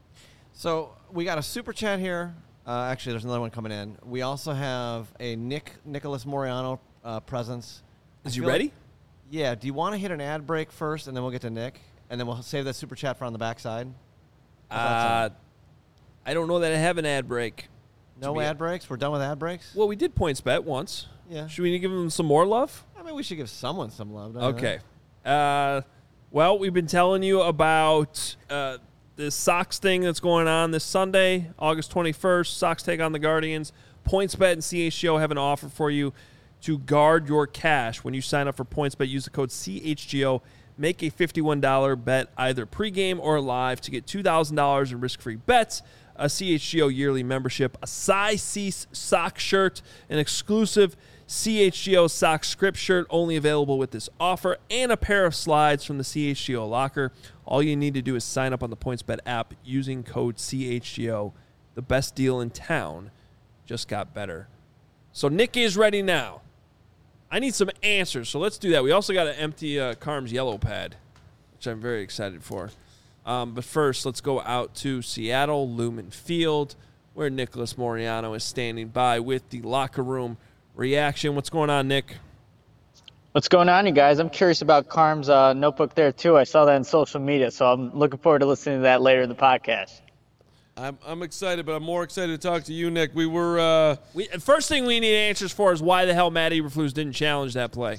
So we got a super chat here. Uh, actually, there's another one coming in. We also have a Nick Nicholas Moriano uh, presence. Is I you feel ready? like- yeah. Do you want to hit an ad break first, and then we'll get to Nick, and then we'll save that super chat for on the backside? How's that Uh, sound? I don't know that I have an ad break. No be- ad breaks. We're done with ad breaks. Well, we did points bet once. Yeah. Should we give them some more love? I mean, we should give someone some love. don't you Okay. Uh, well, we've been telling you about uh, this Sox thing that's going on this Sunday, August twenty-first. Sox take on the Guardians. PointsBet and C H G O have an offer for you to guard your cash. When you sign up for PointsBet, use the code C H G O. Make a fifty-one dollars bet either pregame or live to get two thousand dollars in risk-free bets, a C H G O yearly membership, a Size Cease sock shirt, an exclusive C H G O sock script shirt only available with this offer, and a pair of slides from the C H G O locker. All you need to do is sign up on the PointsBet app using code C H G O. The best deal in town just got better. So Nick is ready now. I need some answers, so let's do that. We also got to empty uh, Carm's yellow pad, which I'm very excited for. Um, but first, let's go out to Seattle, Lumen Field, where Nicholas Moriano is standing by with the locker room reaction. What's going on, Nick? What's going on, you guys? I'm curious about Carm's uh, notebook there, too. I saw that on social media, so I'm looking forward to listening to that later in the podcast. I'm I'm excited, but I'm more excited to talk to you, Nick. We were uh, We first thing we need answers for is why the hell Matt Eberflus didn't challenge that play.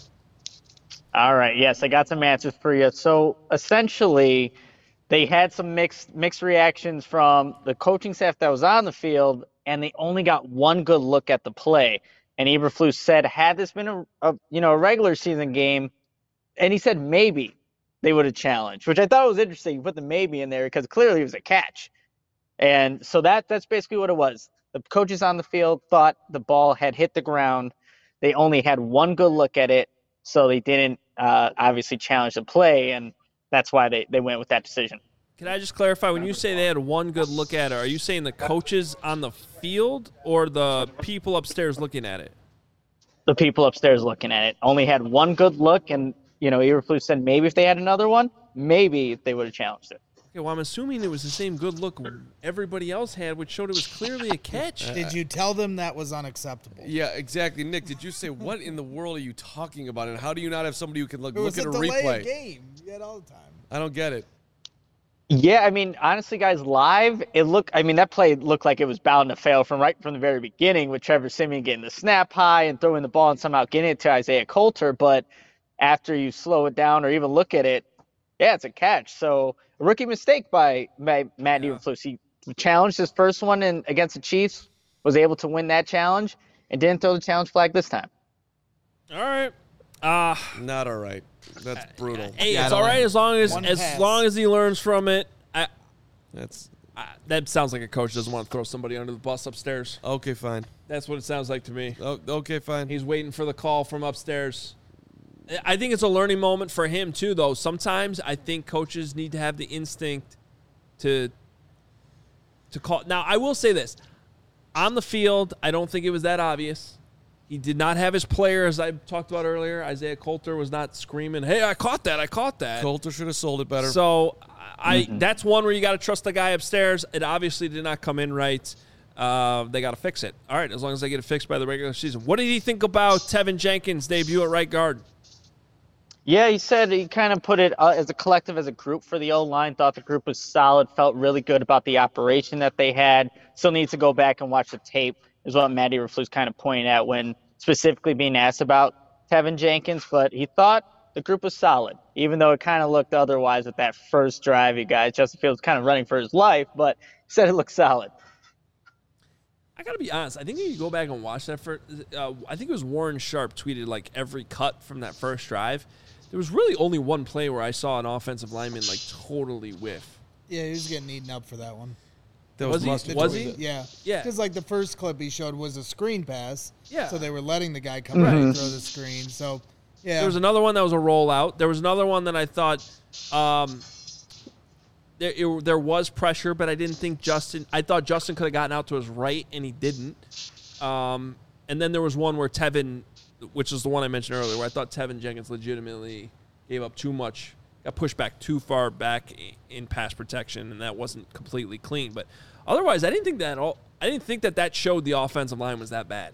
All right, yes, I got some answers for you. So essentially, they had some mixed mixed reactions from the coaching staff that was on the field, and they only got one good look at the play. And Eberflus said, had this been a, a you know a regular season game, and he said maybe they would have challenged, which I thought was interesting. You put the maybe in there because clearly it was a catch. And so that that's basically what it was. The coaches on the field thought the ball had hit the ground. They only had one good look at it, so they didn't uh, obviously challenge the play, and that's why they, they went with that decision. Can I just clarify, when you say they had one good look at it, are you saying the coaches on the field or the people upstairs looking at it? The people upstairs looking at it only had one good look, and you know Eberflus said maybe if they had another one, maybe they would have challenged it. Okay, well, I'm assuming it was the same good look everybody else had, which showed it was clearly a catch. Did you tell them that was unacceptable? yeah, exactly. Nick, did you say what in the world are you talking about, and how do you not have somebody who can look, It was look at a a delay replay? of game. You had all the time. I don't get it. Yeah, I mean, honestly, guys, live, it looked, I mean, that play looked like it was bound to fail from right from the very beginning with Trevor Siemian getting the snap high and throwing the ball and somehow getting it to Isaiah Coulter. But after you slow it down or even look at it, yeah, it's a catch. So a rookie mistake by Matt Eberflus. He challenged his first one in, against the Chiefs, was able to win that challenge, and didn't throw the challenge flag this time. All right. Uh, Not all right. That's brutal. hey, Yeah, I it's don't all right like- as long as One as pass. long as he learns from it. I, That's I, that sounds like a coach doesn't want to throw somebody under the bus upstairs. okay. Fine. That's what it sounds like to me. Oh, okay, fine. He's waiting for the call from upstairs. I think it's a learning moment for him too, though. Sometimes I think coaches need to have the instinct to to call. Now, I will say this: on the field, I don't think it was that obvious. He did not have his player, as I talked about earlier. Isaiah Coulter was not screaming, "Hey, I caught that! I caught that!" Coulter should have sold it better. So, I that's one where you got to trust the guy upstairs. It obviously did not come in right. Uh, they got to fix it. All right, as long as they get it fixed by the regular season. What did he think about Tevin Jenkins' debut at right guard? Yeah, he said he kind of put it uh, as a collective, as a group for the O-line, thought the group was solid, felt really good about the operation that they had. Still needs to go back and watch the tape, is what Matt Eberflus kind of pointed at when specifically being asked about Tevin Jenkins. But he thought the group was solid, even though it kind of looked otherwise with that first drive, you guys. Justin Fields kind of running for his life, but he said it looked solid. I got to be honest. I think if you go back and watch that, for, uh, I think it was Warren Sharp tweeted like every cut from that first drive. There was really only one play where I saw an offensive lineman like totally whiff. Yeah, he was getting eaten up for that one. That Was was, he- mustard. was was he? it? Yeah. Yeah. Because, like, the first clip he showed was a screen pass. Yeah. So they were letting the guy come in and throw the screen. So, yeah. There was another one that was a rollout. There was another one that I thought um, there it, there was pressure, but I didn't think Justin. I thought Justin could have gotten out to his right, and he didn't. Um, and then there was one where Tevin, which is the one I mentioned earlier, where I thought Tevin Jenkins legitimately gave up too much, got pushed back too far back in pass protection, and that wasn't completely clean. But otherwise, I didn't think that all. I didn't think that that showed the offensive line was that bad.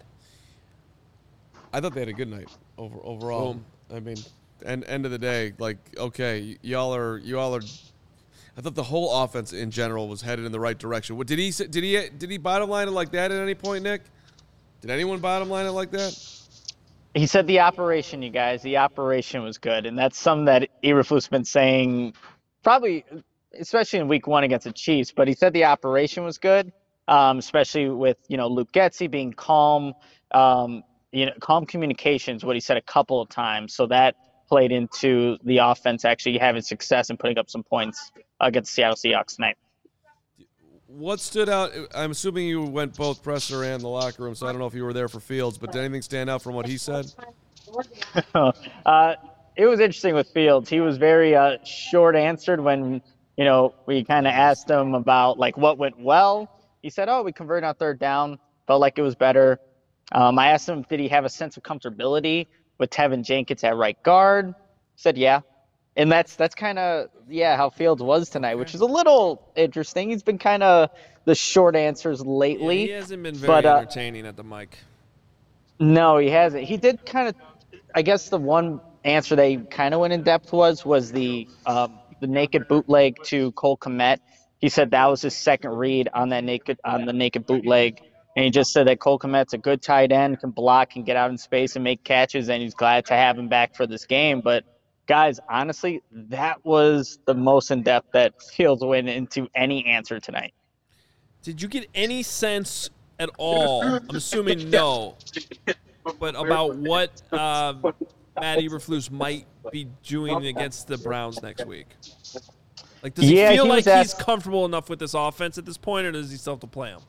I thought they had a good night over overall. Boom. I mean, end end of the day, like okay, y- y'all are y'all are. I thought the whole offense in general was headed in the right direction. What did he say, did he did he bottom line it like that at any point, Nick? Did anyone bottom line it like that? He said the operation, you guys, the operation was good. And that's something that Eberflus's been saying probably, especially in week one against the Chiefs. But he said the operation was good, um, especially with, you know, Luke Getsy being calm. Um, you know, calm communications, what he said a couple of times. So that played into the offense actually having success and putting up some points against the Seattle Seahawks tonight. What stood out? I'm assuming you went both presser and the locker room, so I don't know if you were there for Fields, but did anything stand out from what he said? uh, it was interesting with Fields. He was very uh, short answered when, you know, we kind of asked him about like what went well. He said, oh, we converted on third down, felt like it was better. Um, I asked him, did he have a sense of comfortability with Tevin Jenkins at right guard? He said, yeah. And that's that's kind of, yeah, how Fields was tonight, which is a little interesting. He's been kind of the short answers lately. Yeah, he hasn't been very but, uh, entertaining at the mic. No, he hasn't. He did kind of, I guess the one answer they kind of went in depth was, was the um, the naked bootleg to Cole Kmet. He said that was his second read on that naked on the naked bootleg. And he just said that Cole Kmet's a good tight end, can block, can get out in space and make catches, and he's glad to have him back for this game. But, guys, honestly, that was the most in-depth that Fields went into any answer tonight. Did you get any sense at all, I'm assuming no, but about what uh, Matt Eberflus might be doing against the Browns next week? Like, does Yeah, he feel he like was he's asked- comfortable enough with this offense at this point, or does he still have to play him?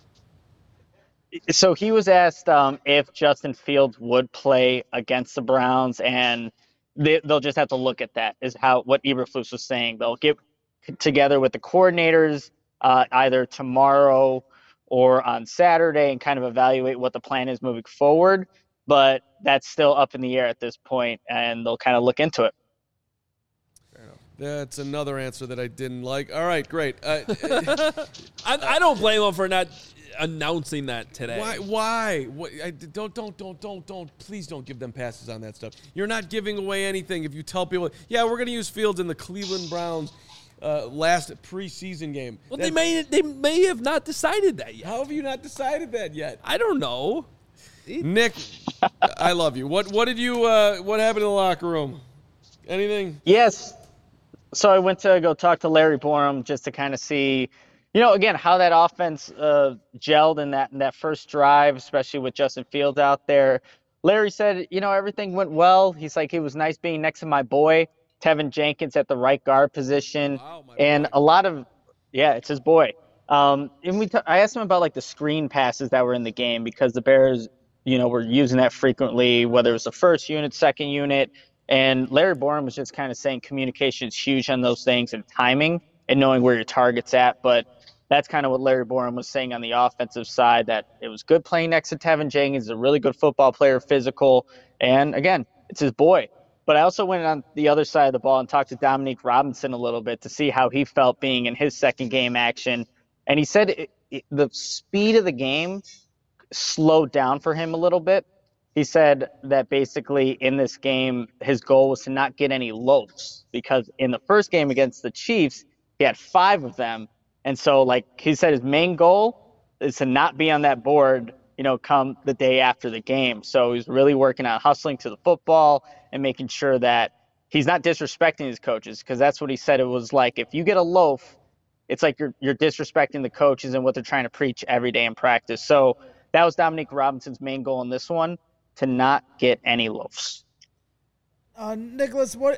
So he was asked um, if Justin Fields would play against the Browns, and they, they'll just have to look at that, is how what Eberflus was saying. They'll get together with the coordinators uh, either tomorrow or on Saturday and kind of evaluate what the plan is moving forward. But that's still up in the air at this point, and they'll kind of look into it. That's another answer that I didn't like. All right, great. Uh, I, I don't blame him for not announcing that today. why? Why? What, I, don't, don't, don't, don't, don't. Please don't give them passes on that stuff. You're not giving away anything if you tell people, yeah, we're going to use Fields in the Cleveland Browns uh, last preseason game. Well, That- they may they may have not decided that yet. How have you not decided that yet? I don't know. Nick, I love you. What What did you? Uh, what happened in the locker room? Anything? Yes. So I went to go talk to Larry Borum just to kind of see, you know, again, how that offense uh, gelled in that in that first drive, especially with Justin Fields out there. Larry said, you know, everything went well. He's like, it was nice being next to my boy, Tevin Jenkins, at the right guard position. Wow, my and boy. a lot of, yeah, it's his boy. Um, and we, t- I asked him about like the screen passes that were in the game because the Bears, you know, were using that frequently, whether it was the first unit, second unit. And Larry Borum was just kind of saying communication is huge on those things and timing and knowing where your target's at. But that's kind of what Larry Borum was saying on the offensive side, that it was good playing next to Tevin Jenkins. He's a really good football player, physical. And, again, it's his boy. But I also went on the other side of the ball and talked to Dominique Robinson a little bit to see how he felt being in his second game action. And he said it, it, the speed of the game slowed down for him a little bit. He said that basically in this game, his goal was to not get any loafs because in the first game against the Chiefs, he had five of them. And so, like he said, his main goal is to not be on that board, you know, come the day after the game. So he's really working on hustling to the football and making sure that he's not disrespecting his coaches, because that's what he said. It was like, if you get a loaf, it's like you're you're disrespecting the coaches and what they're trying to preach every day in practice. So that was Dominique Robinson's main goal in this one, to not get any loafs. Uh, Nicholas, what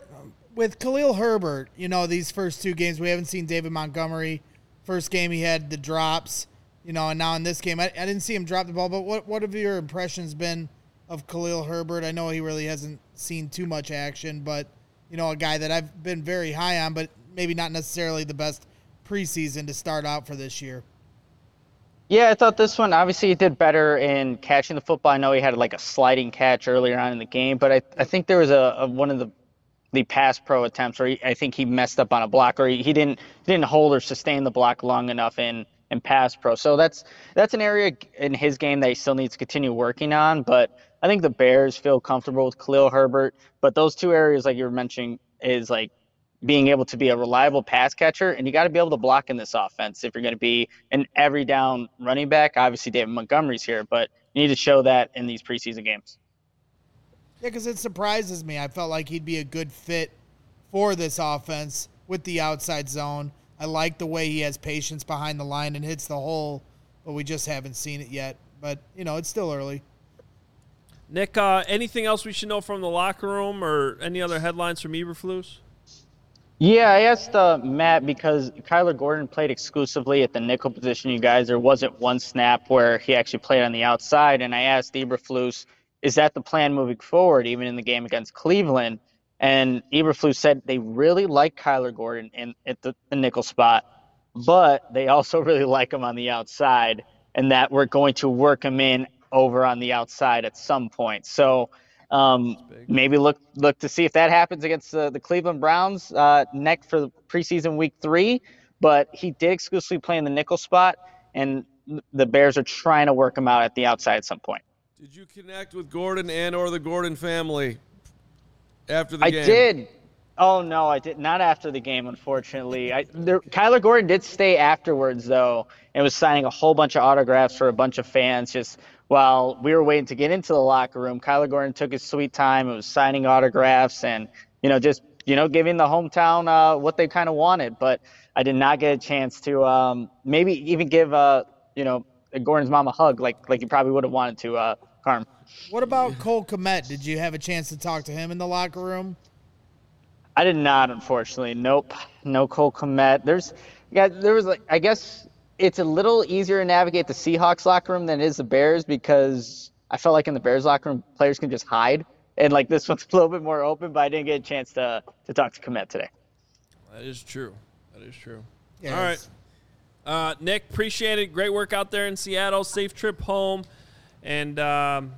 with Khalil Herbert, you know, these first two games, we haven't seen David Montgomery. First game, he had the drops, you know, and now in this game, I, I didn't see him drop the ball, but what, what have your impressions been of Khalil Herbert? I know he really hasn't seen too much action, but, you know, a guy that I've been very high on, but maybe not necessarily the best preseason to start out for this year. Yeah, I thought this one, obviously he did better in catching the football. I know he had like a sliding catch earlier on in the game, but I, I think there was a, a one of the the pass pro attempts where he, I think he messed up on a block, or he, he didn't he didn't hold or sustain the block long enough in, in pass pro. So that's that's an area in his game that he still needs to continue working on. But I think the Bears feel comfortable with Khalil Herbert. But those two areas, like you were mentioning, is like being able to be a reliable pass catcher, and you got to be able to block in this offense if you're going to be an every down running back. Obviously, David Montgomery's here, but you need to show that in these preseason games. Yeah, because it surprises me. I felt like he'd be a good fit for this offense with the outside zone. I like the way he has patience behind the line and hits the hole, but we just haven't seen it yet. But, you know, it's still early. Nick, uh, anything else we should know from the locker room or any other headlines from Eberflus? Yeah, I asked uh, Matt because Kyler Gordon played exclusively at the nickel position, you guys. There wasn't one snap where he actually played on the outside. And I asked Eberflus, is that the plan moving forward, even in the game against Cleveland? And Eberflus said they really like Kyler Gordon in, at the, the nickel spot, but they also really like him on the outside, and that we're going to work him in over on the outside at some point. So um, maybe look look to see if that happens against the, the Cleveland Browns uh, next for the preseason week three. But he did exclusively play in the nickel spot, and the Bears are trying to work him out at the outside at some point. Did you connect with Gordon and or the Gordon family after the I game? I did. Oh, no, I did not after the game, unfortunately. I, there, Kyler Gordon did stay afterwards, though, and was signing a whole bunch of autographs for a bunch of fans just while we were waiting to get into the locker room. Kyler Gordon took his sweet time and was signing autographs and, you know, just, you know, giving the hometown uh, what they kind of wanted. But I did not get a chance to um, maybe even give, uh, you know, Gordon's mom a hug like like you probably would have wanted to, uh, Carm. What about Cole Kmet? Did you have a chance to talk to him in the locker room? I did not, unfortunately. Nope. No Cole Kmet. There's, yeah, there was like, I guess it's a little easier to navigate the Seahawks locker room than it is the Bears, because I felt like in the Bears locker room, players can just hide. And like this one's a little bit more open, but I didn't get a chance to, to talk to Kmet today. That is true. That is true. Yes. All right. Uh, Nick, appreciate it. Great work out there in Seattle. Safe trip home. And, um,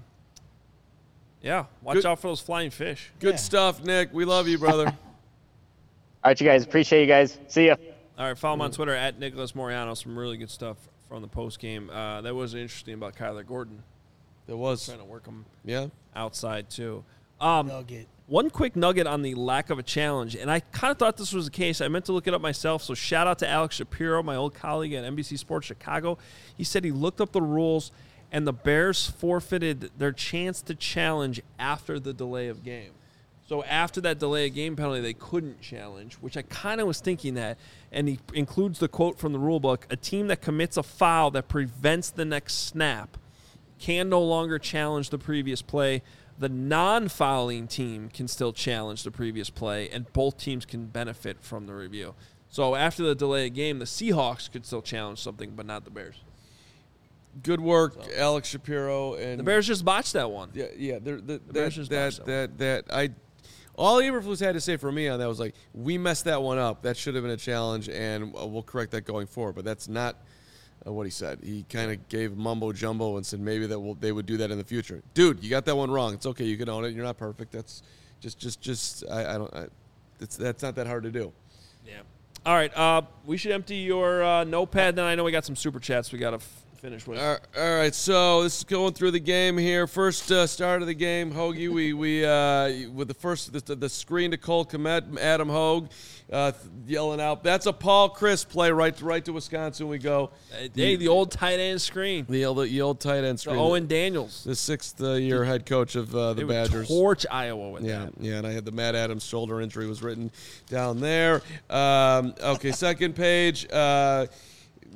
yeah, watch Good. out for those flying fish. Good Yeah. stuff, Nick. We love you, brother. All right, you guys. Appreciate you guys. See ya. All right, follow him on Twitter at Nicholas Moriano. Some really good stuff from the post game. Uh, that was interesting about Kyler Gordon. There was. Trying to work him Yeah. outside, too. Um, Nugget. One quick nugget on the lack of a challenge, and I kind of thought this was the case. I meant to look it up myself, so shout out to Alex Shapiro, my old colleague at N B C Sports Chicago. He said he looked up the rules, and the Bears forfeited their chance to challenge after the delay of game. So after that delay of game penalty, they couldn't challenge, which I kind of was thinking that. And he includes the quote from the rule book: a team that commits a foul that prevents the next snap can no longer challenge the previous play. The non-fouling team can still challenge the previous play, and both teams can benefit from the review. So after the delay of game, the Seahawks could still challenge something, but not the Bears. Good work, so. Alex Shapiro. And the Bears just botched that one. Yeah, yeah. The, the, the Bears that, just that, botched that, that, that, I, all Eberflus had to say for me on that was like, we messed that one up. That should have been a challenge, and we'll correct that going forward. But that's not uh, what he said. He kind of gave mumbo jumbo and said maybe that we'll, they would do that in the future. Dude, you got that one wrong. It's okay. You can own it. You're not perfect. That's just, just, just. I, I don't. I, it's that's not that hard to do. Yeah. All right. Uh, we should empty your uh, notepad. Then I know we got some super chats we got to f- finish with. All right. So this is going through the game here. First uh, start of the game, Hoagie. We we uh, with the first the, the screen to Cole Kmet, Adam Hogue, uh, yelling out, "That's a Paul Chryst play right to, right to Wisconsin." We go. Hey, the old tight end screen. The old the old tight end screen. The Owen Daniels, the sixth uh, year head coach of uh, the they Badgers. Would torch Iowa with yeah, that. Yeah, and I had the Matt Adams shoulder injury was written down there. Um, okay, second page. Uh,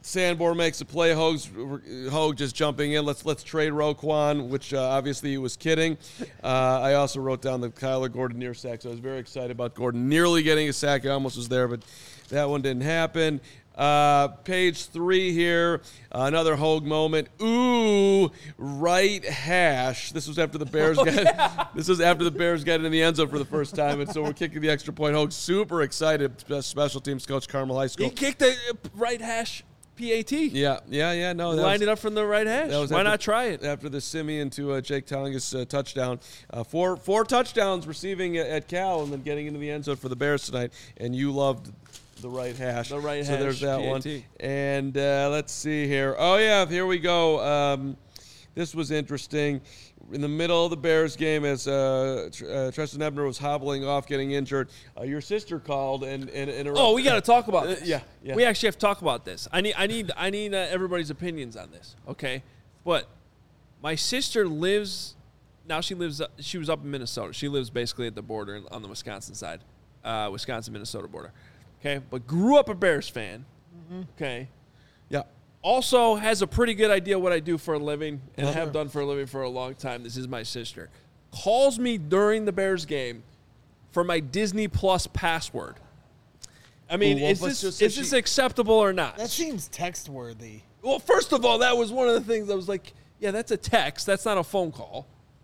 Sanborn makes a play. Hoag's, Hoag just jumping in. Let's let's trade Roquan, which uh, obviously he was kidding. Uh, I also wrote down the Kyler Gordon near sack, so I was very excited about Gordon nearly getting a sack. I almost was there, but that one didn't happen. Uh, page three here, uh, another Hoag moment. Ooh, right hash. This was after the Bears Oh, got. yeah. This was after the Bears got in the end zone for the first time, and so we're kicking the extra point. Hoag super excited. Special teams coach, Carmel High School. He kicked the right hash P A T. Yeah, yeah, yeah. No, that Lined was, it up from the right hash. that was Why after- not try it? after the Simeon to uh, Jake Tongas uh, touchdown. Uh, four four touchdowns receiving at, at Cal, and then getting into the end zone for the Bears tonight. And you loved the right hash. The right so hash, there's that P A one. T. And uh, let's see here. Oh yeah, here we go. Um, this was interesting. In the middle of the Bears game, as uh, Tr- uh, Tristan Ebner was hobbling off, getting injured, uh, your sister called and and, and Oh, we got to talk about Uh, this. yeah, yeah. We actually have to talk about this. I need, I need, I need uh, everybody's opinions on this. Okay, but my sister lives now. She lives. Uh, she was up in Minnesota. She lives basically at the border in- on the Wisconsin side, uh, Wisconsin Minnesota border. Okay, but grew up a Bears fan. Okay, yeah. also has a pretty good idea what I do for a living and Uh-huh. have done for a living for a long time. This is my sister. Calls me during the Bears game for my Disney Plus password. I mean, Well, is let's this just say is this she- acceptable or not? That seems text worthy. Well, first of all, that was one of the things I was like, yeah, that's a text. That's not a phone call.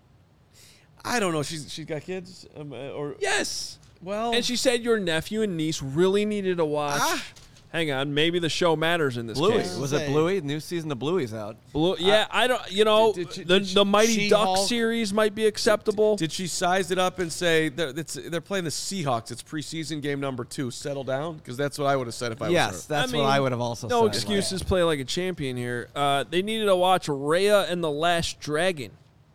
I don't know. She's she's got kids, um, uh, or Yes. well, And she said your nephew and niece really needed to watch. Ah. Hang on, maybe the show matters in this Bluey. case. Was Say- it Bluey? New season of Bluey's out. Blue, yeah, I don't. You know, Did- did she- the did she- the Mighty Duck She-Hulk? series might be acceptable. Did she size it up and say they're, it's, they're playing the Seahawks? It's preseason game number two. Settle down, because that's what I would have said if I Yes, was her. that's I mean, what I would have also no said. excuses. Play like a champion here. Uh, they needed to watch Raya and the Last Dragon.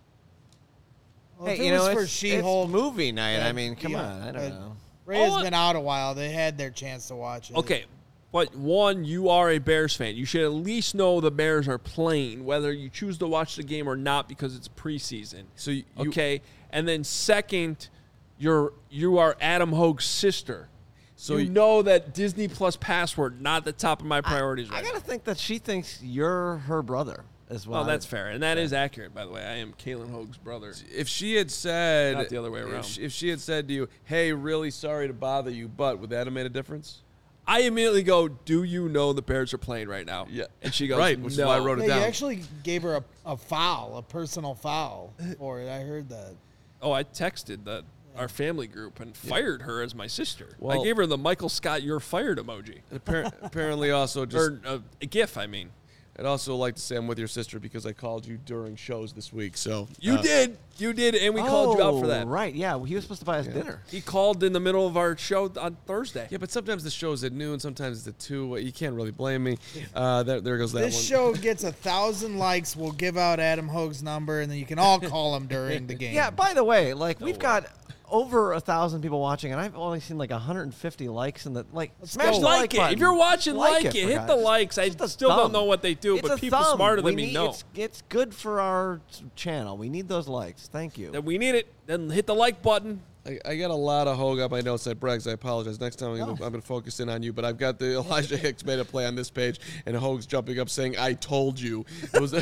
Well, Hey, if it you was know, for it's, She-Hulk, it's movie night. I yeah, mean, come yeah, on. I don't but know. Ray's All I- been out a while. They had their chance to watch it. Okay, but one, you are a Bears fan. You should at least know the Bears are playing, whether you choose to watch the game or not, because it's preseason. So you, you- Okay, and then second, you're you are Adam Hoag's sister. So So you you- know that Disney Plus password not the top of my priorities I right gotta now. think that she thinks you're her brother as well. Well, that's fair, and that is accurate, by the way. I am Kalen Hoag's brother. if she had said Not the other way if around. she, if she had said to you, "Hey, really sorry to bother you, but," would that have made a difference? I immediately go, "Do you know the Bears are playing right now?" Yeah. and she goes, Right, which is no. why I wrote it Yeah, you down. actually gave her a, a foul, a personal foul for it. I heard that. Oh, I texted that our family group and fired her as my sister. Well- I gave her the Michael Scott "you're fired" emoji Appar- apparently, also just or uh, a GIF. I mean, I'd also like to say I'm with your sister because I called you during shows this week. So you uh, did, you did, and we called you out for that. Oh, Right, yeah. He was supposed to buy us dinner. He called in the middle of our show on Thursday. Yeah, but sometimes the show's at noon, sometimes it's at two. You can't really blame me. Uh, there, there goes that This one. show gets a thousand likes. We'll give out Adam Hoag's number, and then you can all call him during the game. Yeah, by the way, like, we've got over a thousand people watching, and I've only seen like one hundred fifty likes in the, like, smash go. the like like it. button. If you're watching, like, it. for Hit God's the sake. likes. I Just a still don't thumb. know what they do, It's but a people thumb. smarter We than me need- know It's, it's good for our channel. We need those likes. Thank you. that we need it. Then hit the like button. I, I got a lot of Hoag on my notes at Braggs. I apologize. Next time I'm going No. to focus in on you. But I've got the Elijah Hicks made a play on this page, and Hoag's jumping up saying, "I told you." It was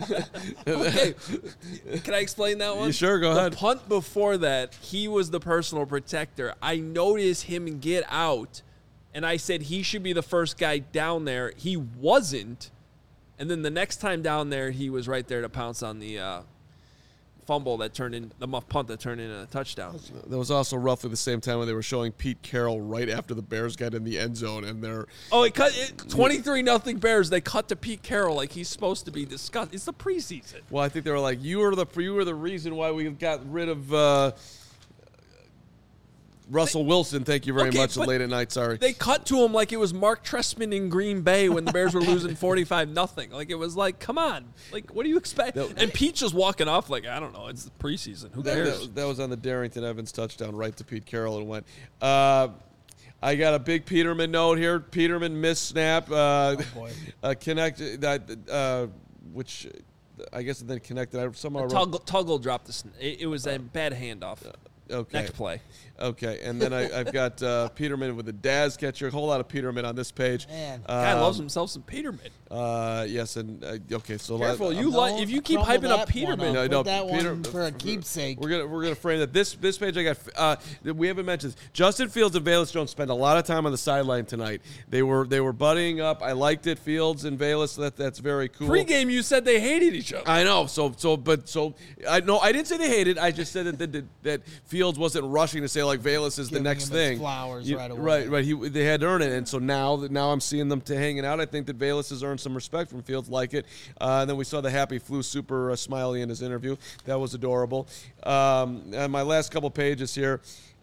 Okay, can I explain that one? You sure? Go the ahead. punt before that, he was the personal protector. I noticed him get out, and I said he should be the first guy down there. He wasn't, and then the next time down there, he was right there to pounce on the uh, fumble that turned in the muff punt that turned into a touchdown. That was also roughly the same time when they were showing Pete Carroll right after the Bears got in the end zone, and they're Oh, it cut it, twenty-three nothing Bears. They cut to Pete Carroll like he's supposed to be discussed. It's the preseason. well, I think they were like, "You were the you were the reason why we got rid of uh, Russell Wilson." Thank you very Okay, much. but Late at night, sorry. They cut to him like it was Mark Trestman in Green Bay when the Bears were losing forty-five nothing. Like, it was like, come on. Like, what do you expect? That- And Pete's just walking off like, I don't know. It's the preseason. Who That, cares? that, that was on the Darrington Evans touchdown right to Pete Carroll and went. Uh, I got a big Peterman note here. Peterman missed snap. Uh, boy. uh, connect that, uh, which uh, I guess it then connected. I somehow wrote, Tuggle, Tuggle dropped the sn- it, it was a bad handoff. Okay. Next play. Okay, and then I, I've got uh, Peterman with the Daz catcher. A whole lot of Peterman on this page. Man. Guy Um, loves himself some Peterman. Uh, yes, and uh, okay, so Careful, let- you Don't like if you keep crumble hyping up that Peterman. one No, up. no, Put that Peter- one for a keepsake. We're gonna we're gonna frame that. This this page I got. Uh, we haven't mentioned this. Justin Fields and Valus Jones spent a lot of time on the sideline tonight. They were they were buddying up. I liked it. Fields and Valus. So that that's very cool. Pre-game, you said they hated each other. I know. So so but so I no I didn't say they hated. I just said that that, that Fields wasn't rushing to say like Valus is Giving the next him his thing. flowers You- right away. Right right. He they had to earn it, and so now that now I'm seeing them to hanging out. I think that Valus has earned some respect from Fields. Like it. Uh, and then we saw the happy flu super uh, smiley in his interview. That was adorable. Um, and my last couple pages here.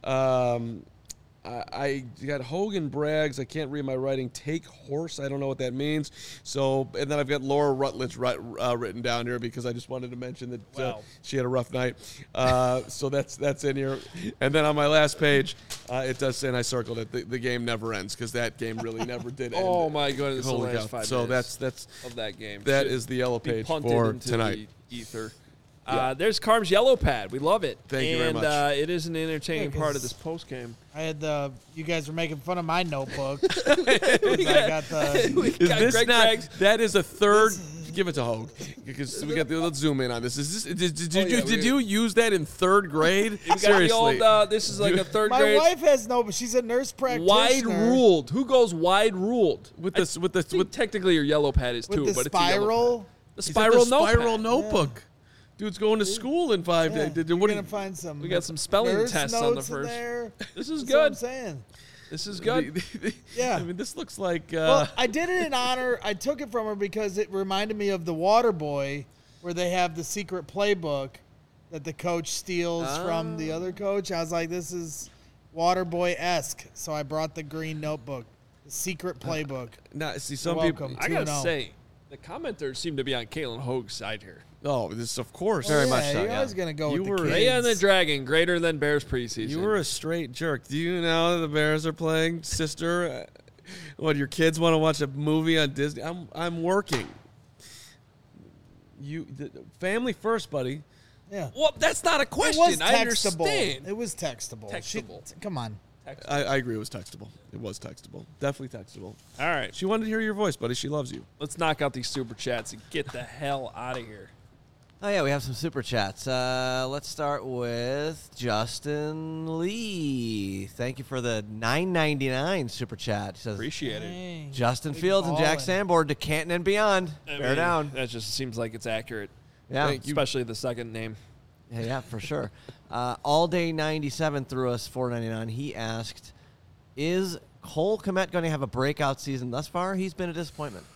Um, I, I got Hogan brags. I can't read my writing. Take horse. I don't know what that means. So, and then I've got Laura Rutledge writ, uh, written down here because I just wanted to mention that uh, Wow. she had a rough night. Uh, so that's that's in here. And then on my last page, uh, it does say, and I circled it. The, the game never ends because that game really never did end. Oh my goodness! Holy the last cow. five So minutes that's that's of that game. that Should is the yellow be page punted for into tonight. the ether. Uh, there's Carm's yellow pad. We love it. Thank you and, very much. Uh, it is an entertaining Yeah, part 'cause of this post game. I had the. You guys were making fun of my notebook. 'Cause I got the. Is Got this Greg not? Greggs. That is a third. Give it to Hogue because we got. The, let's zoom in on this. Is this? Did, did, Oh, you yeah, did we- you use that in third grade? We got Seriously. the old. Uh, this is like a third My grade. wife has no, but she's a nurse practitioner. Wide ruled. Who goes wide ruled? with this with I this think with technically your yellow pad is with too, the but it's a yellow spiral. pad. The He's got spiral the notepad. spiral notebook. Dude's going to school in five Yeah, days. Did- you're what do gonna you- find some. We got some spelling nurse tests on the notes in first. there. This is That's what I'm good. saying. This is good. the- the- Yeah. I mean, this looks like. Uh, Well, I did it in honor. I took it from her because it reminded me of the Water Boy, where they have the secret playbook that the coach steals from the other coach. I was like, this is Water Boy esque. So I brought the green notebook, the secret playbook. nah, see, some You're people. welcome. I gotta two and oh. say, the commenters seem to be on Kalen Hogue's side here. Oh, this of course. Very yeah, much so, You're yeah. always gonna go You with were- the kids. Raya and the Dragon, greater than Bears preseason. You were a straight jerk. Do you know the Bears are playing, sister? Uh, What, your kids want to watch a movie on Disney? I'm I'm working. You the, family first, buddy. Yeah. Well, that's not a It question. was I textable. understand. It was textable. She- Textable. come on. I, I agree. It was textable. It was textable. Definitely textable. All right, She wanted to hear your voice, buddy. She loves you. let's knock out these super chats and get the hell out of here. Oh, yeah, we have some super chats. Uh, let's start with Justin Lee. Thank you for the nine ninety-nine super chat. He says, Appreciate it. Dang. Justin Big Fields and Jack ballin'. Sanborn to Canton and beyond. I Bear mean, down. That just seems like it's accurate, Yeah. Thank you. especially the second name. Yeah, yeah, for sure. Uh, All Day ninety-seven threw us four ninety-nine. He asked, "Is Cole Kmet going to have a breakout season thus far? He's been a disappointment."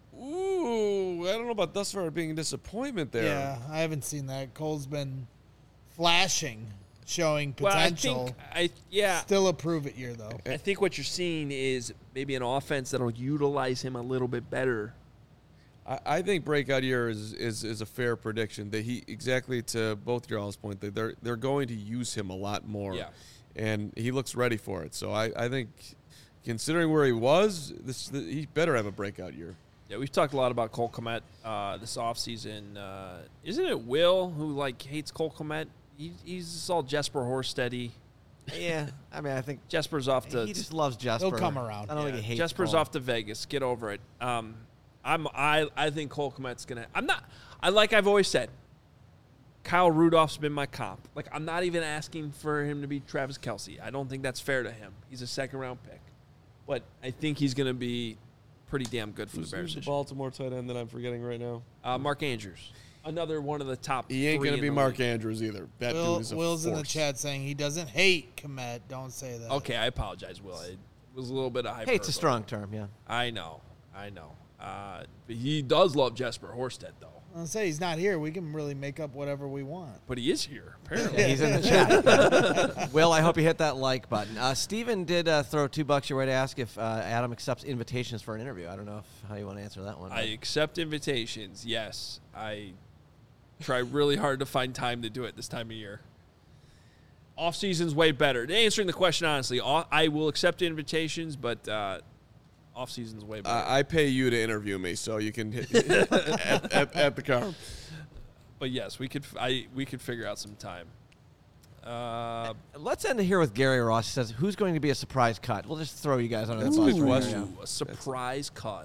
Ooh, I don't know about thus far being a disappointment there. Yeah, I haven't seen that. Cole's been flashing, showing Well, I potential. think I yeah. Still a prove it year though. I think what you're seeing is maybe an offense that'll utilize him a little bit better. I, I think breakout year is, is is a fair prediction. That he exactly to both your all's point that they're they're going to use him a lot more. Yeah. And he looks ready for it. So I, I think considering where he was, this he better have a breakout year. Yeah, we've talked a lot about Cole Kmet uh, this offseason. Uh, isn't it Will who like hates Cole Kmet? He, he's just all Jesper Horsteady. Yeah, I mean, I think Jesper's off to he just loves Jesper. He'll come around. I don't yeah, think he hates Jesper's Cole. off to Vegas. Get over it. Um, I'm I I think Cole Kmet's gonna. I'm not. I like I've always said. Kyle Rudolph's been my comp. Like I'm not even asking for him to be Travis Kelce. I don't think that's fair to him. He's a second round pick, but I think he's gonna be pretty damn good for Who's, the Bears. who's the this year. Baltimore tight end that I'm forgetting right now? Uh, Mark Andrews, another one of the top. He ain't three going in to be the Mark league. Andrews either. That Will, dude is a Will's in the force. chat saying he doesn't hate Komet. Don't say that. Okay, I apologize, Will. It was a little bit of hyperbole. Hate's a strong term, yeah. I know, I know. Uh, but he does love Jesper Horsted, though. I'll say he's not here. We can really make up whatever we want. But he is here, apparently. Yeah, he's in the chat. Will, I hope you hit that like button. Uh, Steven did uh, throw two bucks your way to ask if uh, Adam accepts invitations for an interview. I don't know if, how you want to answer that one. I accept invitations. Yes, I try really hard to find time to do it this time of year. Off season's way better. Answering the question honestly, off- I will accept invitations, but uh, off season's way better. I I pay you to interview me, so you can hit at, at, at the car. but yes, we could. I we could figure out some time. Uh, Let's end it here with Gary Ross. He says, who's going to be a surprise cut? We'll just throw you guys under That's the a bus. good right question. now. a surprise cut.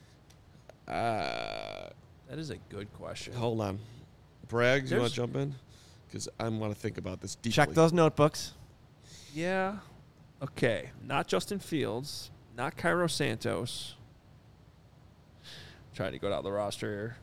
Uh, That is a good question. hold on. Braggs, you want There's- to jump in? Because I want to think about this deeply. Check those notebooks. Yeah. Okay. Not Justin Fields. Not Cairo Santos. Trying to go down the roster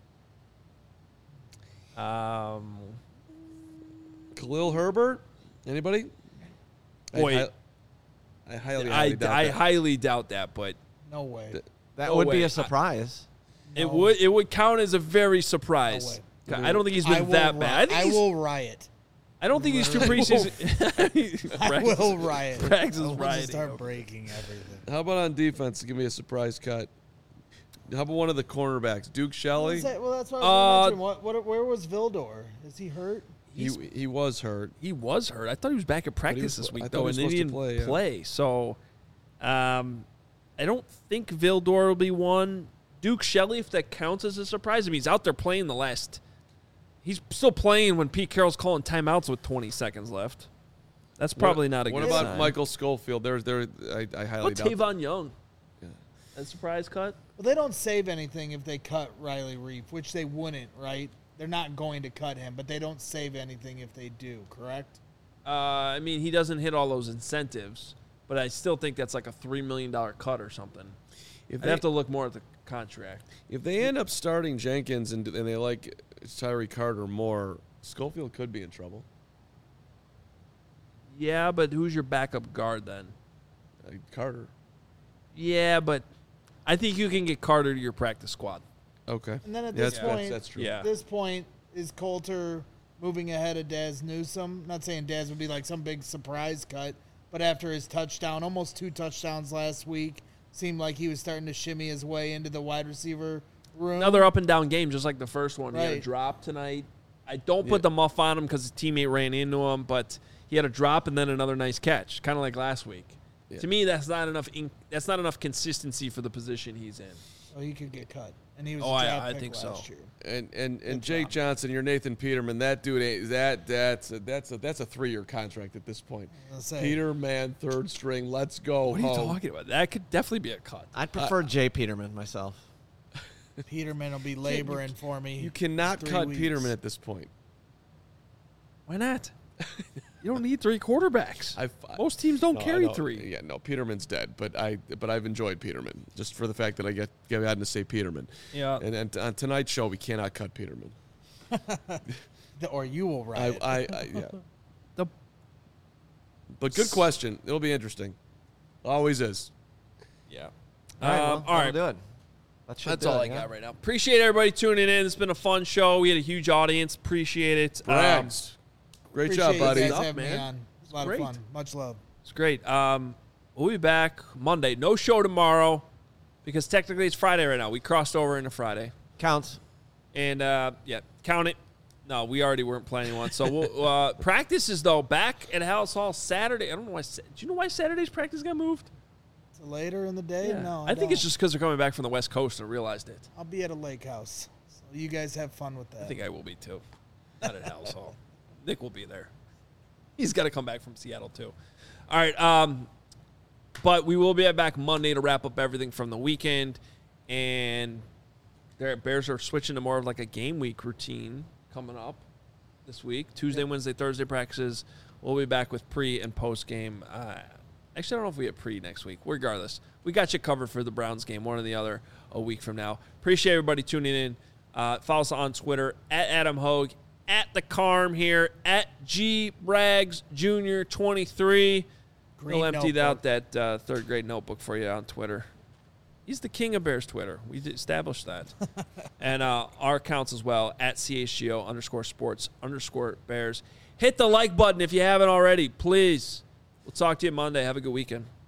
here. Um, Khalil Herbert? Anybody? Boy, I, I, I highly, I, highly doubt I that. highly doubt that, but No way. Th- That No would way. be I- a surprise. it No. would it would count as a very surprise. No I don't think he's I been will that ri- bad. I, think I he's- will riot. I don't think these two I will- preseason. I Braggs- will riot. Braggs is I will just rioting start over breaking everything. How about on defense? Give me a surprise cut. How about one of the cornerbacks? Duke Shelley? Well, that's what I was Uh, going to mention. What, what, where was Vildor? Is he hurt? He, he was hurt. He was hurt. I thought he was back at practice was- this week I thought though, he was and he supposed to didn't play, yeah. play. So, um, I don't think Vildor will be one. Duke Shelley, if that counts as a surprise, I mean, he's out there playing the last. He's still playing when Pete Carroll's calling timeouts with twenty seconds left. That's probably what, not a What good about sign. Michael Schofield? There's there. I, I highly What doubt. Tavon Young? Yeah. A surprise cut? Well, they don't save anything if they cut Riley Reef, which they wouldn't, right? They're not going to cut him, but they don't save anything if they do, correct? Uh, I mean, he doesn't hit all those incentives, but I still think that's like a three million dollar cut or something. If I'd they, have to look more at the contract. if they end up starting Jenkins and, and they like Tyree Carter more, Schofield could be in trouble. Yeah, but who's your backup guard then? Uh, Carter. Yeah, but I think you can get Carter to your practice squad. Okay. And then at Yeah, this that's, that's, point, that's true. Yeah. At this point, is Coulter moving ahead of Daz Newsome? Not saying Daz would be like some big surprise cut, but after his touchdown, almost two touchdowns last week, seemed like he was starting to shimmy his way into the wide receiver room. Another up and down game, just like the first one. He had a Right. drop tonight. I don't put Yeah. the muff on him because his teammate ran into him, but he had a drop and then another nice catch, kind of like last week. Yeah. To me, that's not enough. In, that's not enough consistency for the position he's in. Oh, he could get cut, and he was Oh, a I- draft I pick think so. last year. And and and Good Jake job. Johnson, you're Nathan Peterman. That dude ain't that that's a, that's a that's a three year contract at this point. I'll say. Peterman, third string. Let's go. What are you home. talking about? That could definitely be a cut. I'd prefer Jay Peterman myself. Peterman will be laboring for me. You cannot three cut weeks. Peterman at this point. Why not? You don't need three quarterbacks. I've, Most teams don't no, I carry know. three. Yeah, no, Peterman's dead. But I but I've enjoyed Peterman just for the fact that I get get gotten to say Peterman. Yeah. And, and on tonight's show, we cannot cut Peterman. The- or you will I, riot. I, I yeah. The- But good question. It'll be interesting. Always is. Yeah. All right, well, Um, all right. that'll do it. That should That's do all it, I yeah. got right now. Appreciate everybody tuning in. It's been a fun show. We had a huge audience. Appreciate it. Um, Braggs. Great Appreciate job, you buddy. guys Stuff, having me man. on. It's a lot great. of fun. Much love. it's great. Um, we'll be back Monday. No show tomorrow because technically it's Friday right now. We crossed over into Friday. Counts. And, uh, yeah, count it. No, we already weren't planning one. So we'll, uh, practices, though, back at House Hall Saturday. I don't know why. Sa- Do you know why Saturday's practice got moved? So later in the day, no. I think it's don't. just because they're coming back from the West Coast and realized it. I'll be at a lake house. So you guys have fun with that. I think I will be too. Not at House Hall. Nick will be there. He's got to come back from Seattle too. All right. Um, but we will be back Monday to wrap up everything from the weekend. And the Bears are switching to more of like a game week routine coming up this week. Tuesday, Wednesday, Thursday practices. We'll be back with pre and post game. Uh, actually, I don't know if we have pre next week. Regardless, we got you covered for the Browns game, one or the other, a week from now. Appreciate everybody tuning in. Uh, follow us on Twitter at Adam Hogue, at the Carm here, at G Braggs Junior twenty-three. Green We'll empty notebook. out that uh, third grade notebook for you on Twitter. He's the king of Bears Twitter. We established that. And uh, our accounts as well, at C H G O underscore sports underscore Bears. Hit the like button if you haven't already, please. We'll talk to you Monday. Have a good weekend.